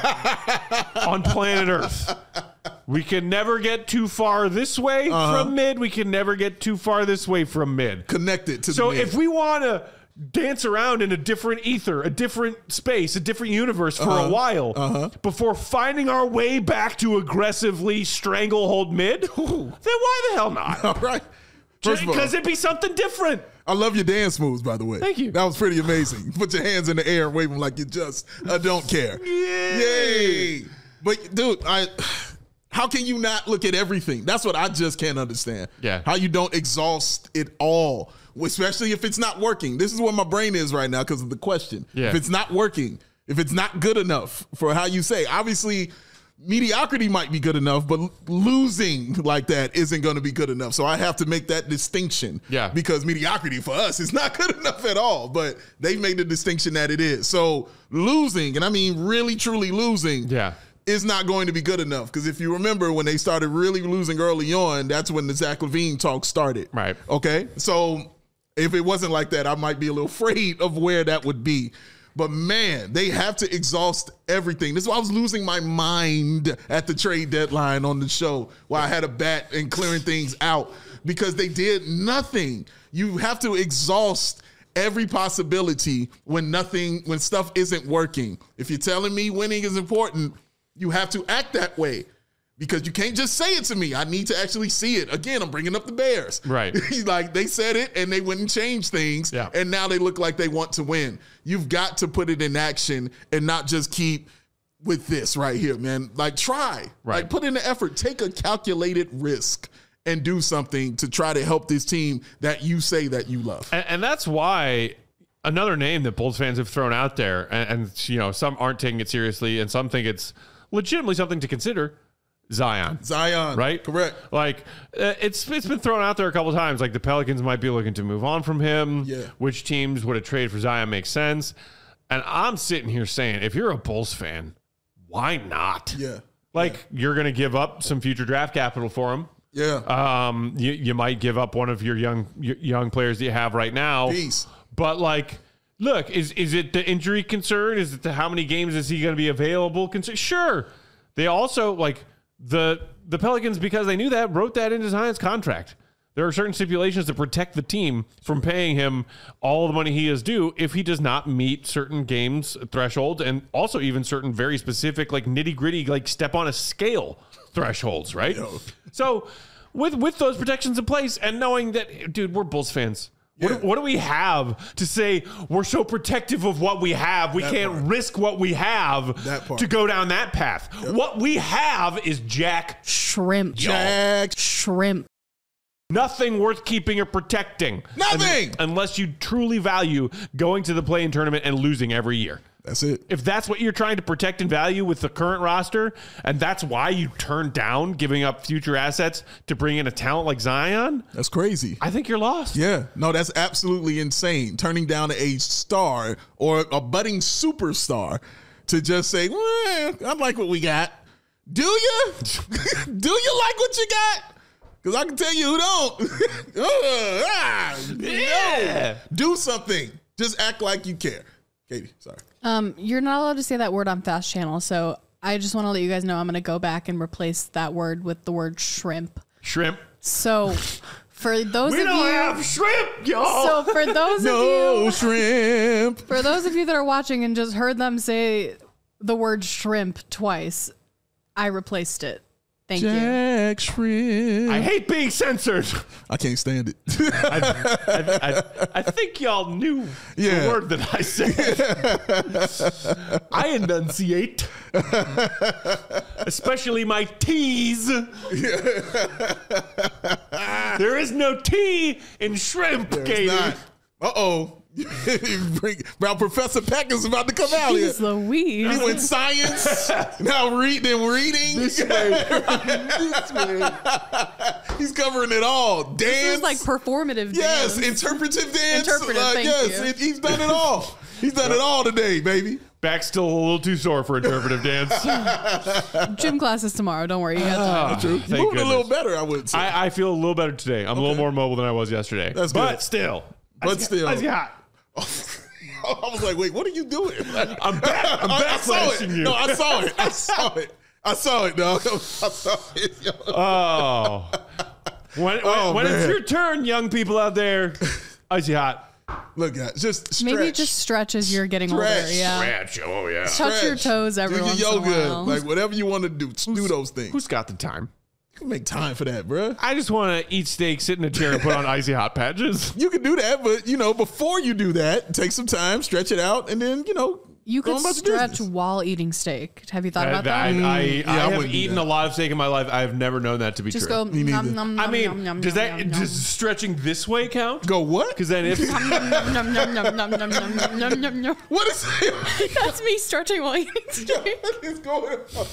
on planet Earth. We can never get too far this way uh-huh. from mid. We can never get too far this way from mid. Connected to so the mid. If we want to dance around in a different ether, a different space, a different universe for uh-huh. a while uh-huh. before finding our way back to aggressively stranglehold mid, Ooh. then why the hell not? All right. Because it'd be something different. I love your dance moves, by the way. Thank you. That was pretty amazing. Put your hands in the air and wave them like you just uh, don't care. Yay. Yay. But, dude, I... How can you not look at everything? That's what I just can't understand. Yeah. How you don't exhaust it all, especially if it's not working. This is where my brain is right now because of the question. Yeah. If it's not working, if it's not good enough for how you say, obviously mediocrity might be good enough, but losing like that isn't going to be good enough. So I have to make that distinction. Yeah. Because mediocrity for us is not good enough at all, but they've made the distinction that it is. So losing, and I mean really, truly losing. Yeah. Is not going to be good enough because if you remember when they started really losing early on, that's when the Zach LaVine talk started. Right. Okay. So if it wasn't like that, I might be a little afraid of where that would be. But man, they have to exhaust everything. This is why I was losing my mind at the trade deadline on the show while I had a bat and clearing things out because they did nothing. You have to exhaust every possibility when nothing, when stuff isn't working. If you're telling me winning is important, you have to act that way because you can't just say it to me. I need to actually see it. Again, I'm bringing up the Bears. Right. Like they said it and they wouldn't change things. Yeah. And now they look like they want to win. You've got to put it in action and not just keep with this right here, man. Like try, right. Like put in the effort, take a calculated risk and do something to try to help this team that you say that you love. And, and that's why another name that Bulls fans have thrown out there, and, and you know, some aren't taking it seriously and some think it's legitimately something to consider, Zion. Zion. Right? Correct. Like, uh, it's it's been thrown out there a couple of times. Like, the Pelicans might be looking to move on from him. Yeah. Which teams would a trade for Zion make sense? And I'm sitting here saying, if you're a Bulls fan, why not? Yeah. Like yeah. you're going to give up some future draft capital for him. Yeah. Um, you, you might give up one of your young your young players that you have right now. Peace. But like, look, is is it the injury concern? Is it the how many games is he going to be available concern? Sure. They also like the the Pelicans, because they knew that, wrote that into Zion's contract. There are certain stipulations to protect the team from paying him all the money he is due if he does not meet certain games thresholds, and also even certain very specific, like nitty gritty, like step on a scale thresholds, right? Yo. So with with those protections in place, and knowing that, dude, we're Bulls fans. What, yeah. do, what do we have to say we're so protective of what we have? We that can't part. risk what we have to go down that path. Yep. What we have is Jack Shrimp. Jack Shrimp. Nothing worth keeping or protecting. Nothing! Un- unless you truly value going to the play-in tournament and losing every year. That's it. If that's what you're trying to protect and value with the current roster, and that's why you turned down giving up future assets to bring in a talent like Zion, that's crazy. I think you're lost. Yeah. No, that's absolutely insane. Turning down a star or a budding superstar to just say, well, I like what we got. Do you? Do you like what you got? Because I can tell you who don't. uh, ah, yeah. No. Do something. Just act like you care. Katie, sorry. Um, you're not allowed to say that word on Fast Channel, so I just want to let you guys know I'm going to go back and replace that word with the word shrimp. Shrimp. So for those we of don't you, have shrimp, y'all. So for those no of you, shrimp. For those of you that are watching and just heard them say the word shrimp twice, I replaced it. Thank Jack you. Jack Shrimp. I hate being censored. I can't stand it. I, I, I, I think y'all knew yeah. the word that I said. I enunciate. Especially my T's. There is no T in shrimp, Katie. Uh-oh. Well, Professor Peck is about to come out here. Jeez Louise. He went science, now reading, reading. This way. This way. He's covering it all. Dance. This is like performative yes, dance. interpretive dance. Interpretive, uh, thank yes, you. It, he's done it all. He's done it all today, baby. Back's still a little too sore for interpretive dance. Gym classes tomorrow. Don't worry. You got time. That's true. You're moving a little better, I would say. I, I feel a little better today. I'm okay. a little more mobile than I was yesterday. That's but good. still. But still. I got. I was like, wait, what are you doing? I'm back. I'm I, back I saw it. you. No, I saw it. I saw it. I saw it, dog. I saw it. Yo. Oh. When, oh, when, when it's man. your turn, young people out there, icy hot. Look, guys, just stretch. Maybe just stretch as you're getting Stretch. older. Yeah. Stretch. Oh, yeah. Touch Stretch. your toes every do your once yoga, in a while. like whatever you want to do. Do those things. Who's got the time? You can make time for that, bro. I just want to eat steak, sit in a chair, and put on icy hot patches. You can do that, but you know, before you do that, take some time, stretch it out, and then you know, you go could on about your stretch business. while eating steak. Have you thought I, about I, that? I, I, Yeah, I I have wouldn't do eaten that. a lot of steak in my life. I have never known that to be Just true. go. Me neither. Nom, nom, I mean, nom, nom, does nom, that nom, does stretching this way count? Go what? Because then if nom, nom, nom, nom, nom, nom, nom, nom, nom, nom, nom. What is That's me stretching while eating steak. what is going on?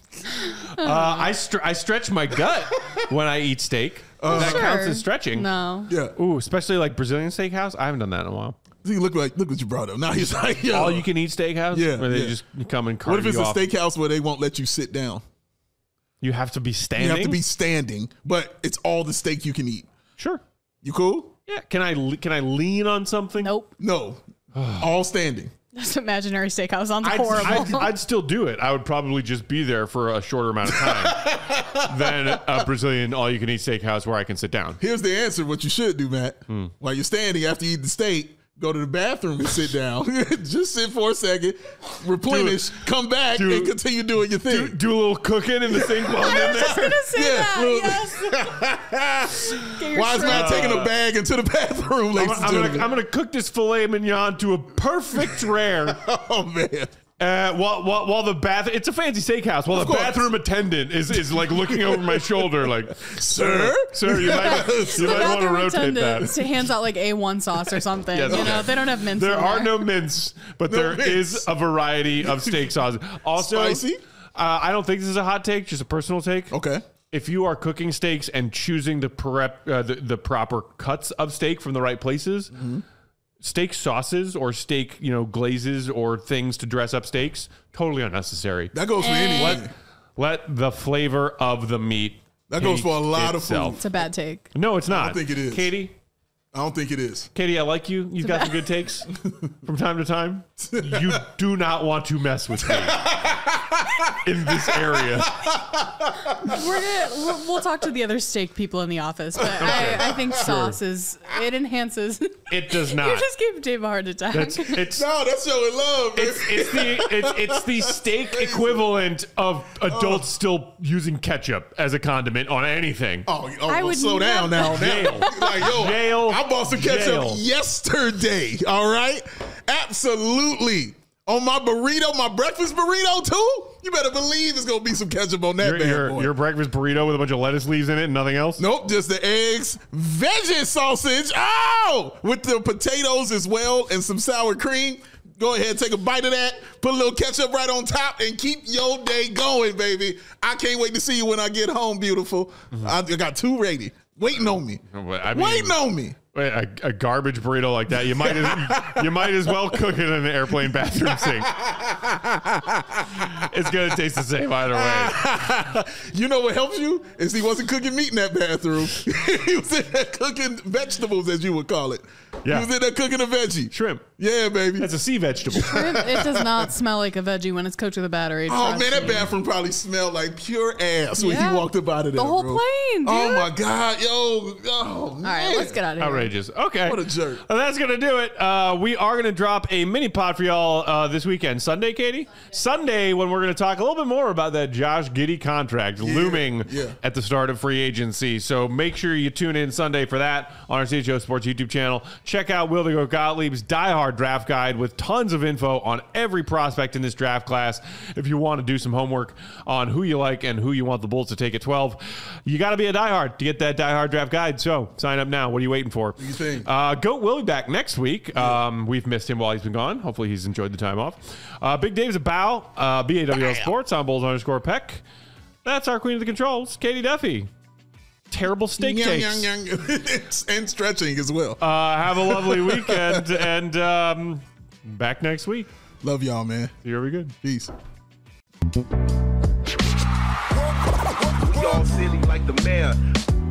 uh, I str- I stretch my gut when I eat steak. Uh, that Sure. counts as stretching. No. Yeah. Ooh, especially like Brazilian steakhouse. I haven't done that in a while. See, look like look what you brought up. Now he's like, yo. All you can eat steakhouse. Yeah, where they yeah. just come and cart What if it's you a off. steakhouse where they won't let you sit down? You have to be standing. You have to be standing, but it's all the steak you can eat. sure. You cool? Yeah. Can I le- can I lean on something? Nope. No. all standing. This imaginary steakhouse sounds I'd, horrible. I'd, I'd still do it. I would probably just be there for a shorter amount of time than a Brazilian all-you-can-eat steakhouse where I can sit down. Here's the answer. What you should do, Matt. Hmm. While you're standing after you eat the steak, go to the bathroom and sit down. Just sit for a second, replenish, come back, do- and continue doing your thing. Do, do a little cooking in the sink while I'm I in was just there. gonna say Yeah, that. well- Yes. Get your Why is Matt shrimp. taking a bag into the bathroom, I'm, ladies and I'm, gentlemen? gonna, I'm gonna cook this filet mignon to a perfect rare. oh, man. Uh, while, while while the bath, it's a fancy steakhouse. While Of the course. bathroom attendant is, is like looking over my shoulder, like, Sir? sir, you might Yes. you The might want to bathroom rotate attendant that. to hands out like A one sauce or something. Yes, you okay. know, they don't have mince. There in are there. no mints, but No there mints. is a variety of steak sauces. Also, Spicy? Uh, I don't think this is a hot take, just a personal take. Okay. If you are cooking steaks and choosing the prep uh, the, the proper cuts of steak from the right places, Mm-hmm. steak sauces or steak, you know, glazes or things to dress up steaks, totally unnecessary. That goes for anything. Let, let the flavor of the meat. That goes for a lot itself. of food. It's a bad take. No, it's not. I don't think it is. Katie? I don't think it is. Katie, I like you. You've got some good takes from time to time. You do not want to mess with me in this area. We're gonna, we'll, we'll talk to the other steak people in the office, but Okay. I, I think Sure. sauce is, it enhances. It does not. You just gave Dave a heart attack. That's it's No, that's showing love, man. it's it's the it's, it's the steak equivalent of adults still using ketchup as a condiment on anything. Oh, oh I well, would slow down now. Jail. now. Like, yo, Jail. I bought some ketchup Jail. yesterday. All right, absolutely. On my burrito, my breakfast burrito too. You better believe it's gonna be some ketchup on that Your, bad your, boy. your breakfast burrito with a bunch of lettuce leaves in it and nothing else? Nope, just the eggs, veggie sausage. Oh, with the potatoes as well and some sour cream. Go ahead, take a bite of that, put a little ketchup right on top, and keep your day going, baby. I can't wait to see you when I get home, beautiful. Mm-hmm. I I got two ready, waiting on me, I mean, waiting on me. Wait, a, a garbage burrito like that, you might as, you might as well cook it in an airplane bathroom sink. It's gonna taste the same either way. You know what helps you is he wasn't cooking meat in that bathroom. He was in there cooking vegetables, as you would call it. Yeah. He was in there cooking a veggie. Shrimp. Yeah, baby. That's a sea vegetable. Shrimp, it does not smell like a veggie when it's cooked with a battery. Oh trust man, that me. bathroom probably smelled like pure ass when Yeah. he walked up out of there. The whole bro. plane, Oh dude. my god, yo, oh All man. right, let's get out of here. Outrageous. Okay. What a jerk. Well, that's going to do it. Uh, we are going to drop a mini pod for y'all uh, this weekend. Sunday, Katie? Sunday, when we're going to talk a little bit more about that Josh Giddey contract looming yeah. at the start of free agency. So make sure you tune in Sunday for that on our C H O Sports YouTube channel. Check out Wildigo Gottlieb's Die Hard Draft Guide with tons of info on every prospect in this draft class. If you want to do some homework on who you like and who you want the Bulls to take at twelve, you got to be a diehard to get that Die Hard Draft Guide. So sign up now. What are you waiting for? you think? Uh, Goat will be back next week. Um, we've missed him while he's been gone. Hopefully he's enjoyed the time off. Uh, Big Dave's a bow. Uh, B A W L Sports on Bulls underscore Peck. That's our queen of the controls, Katie Duffy. Terrible steak Young, takes. young, young. And stretching as well. Uh, have a lovely weekend and um, back next week. Love y'all, man. You're very good. Peace. We all silly like the mayor.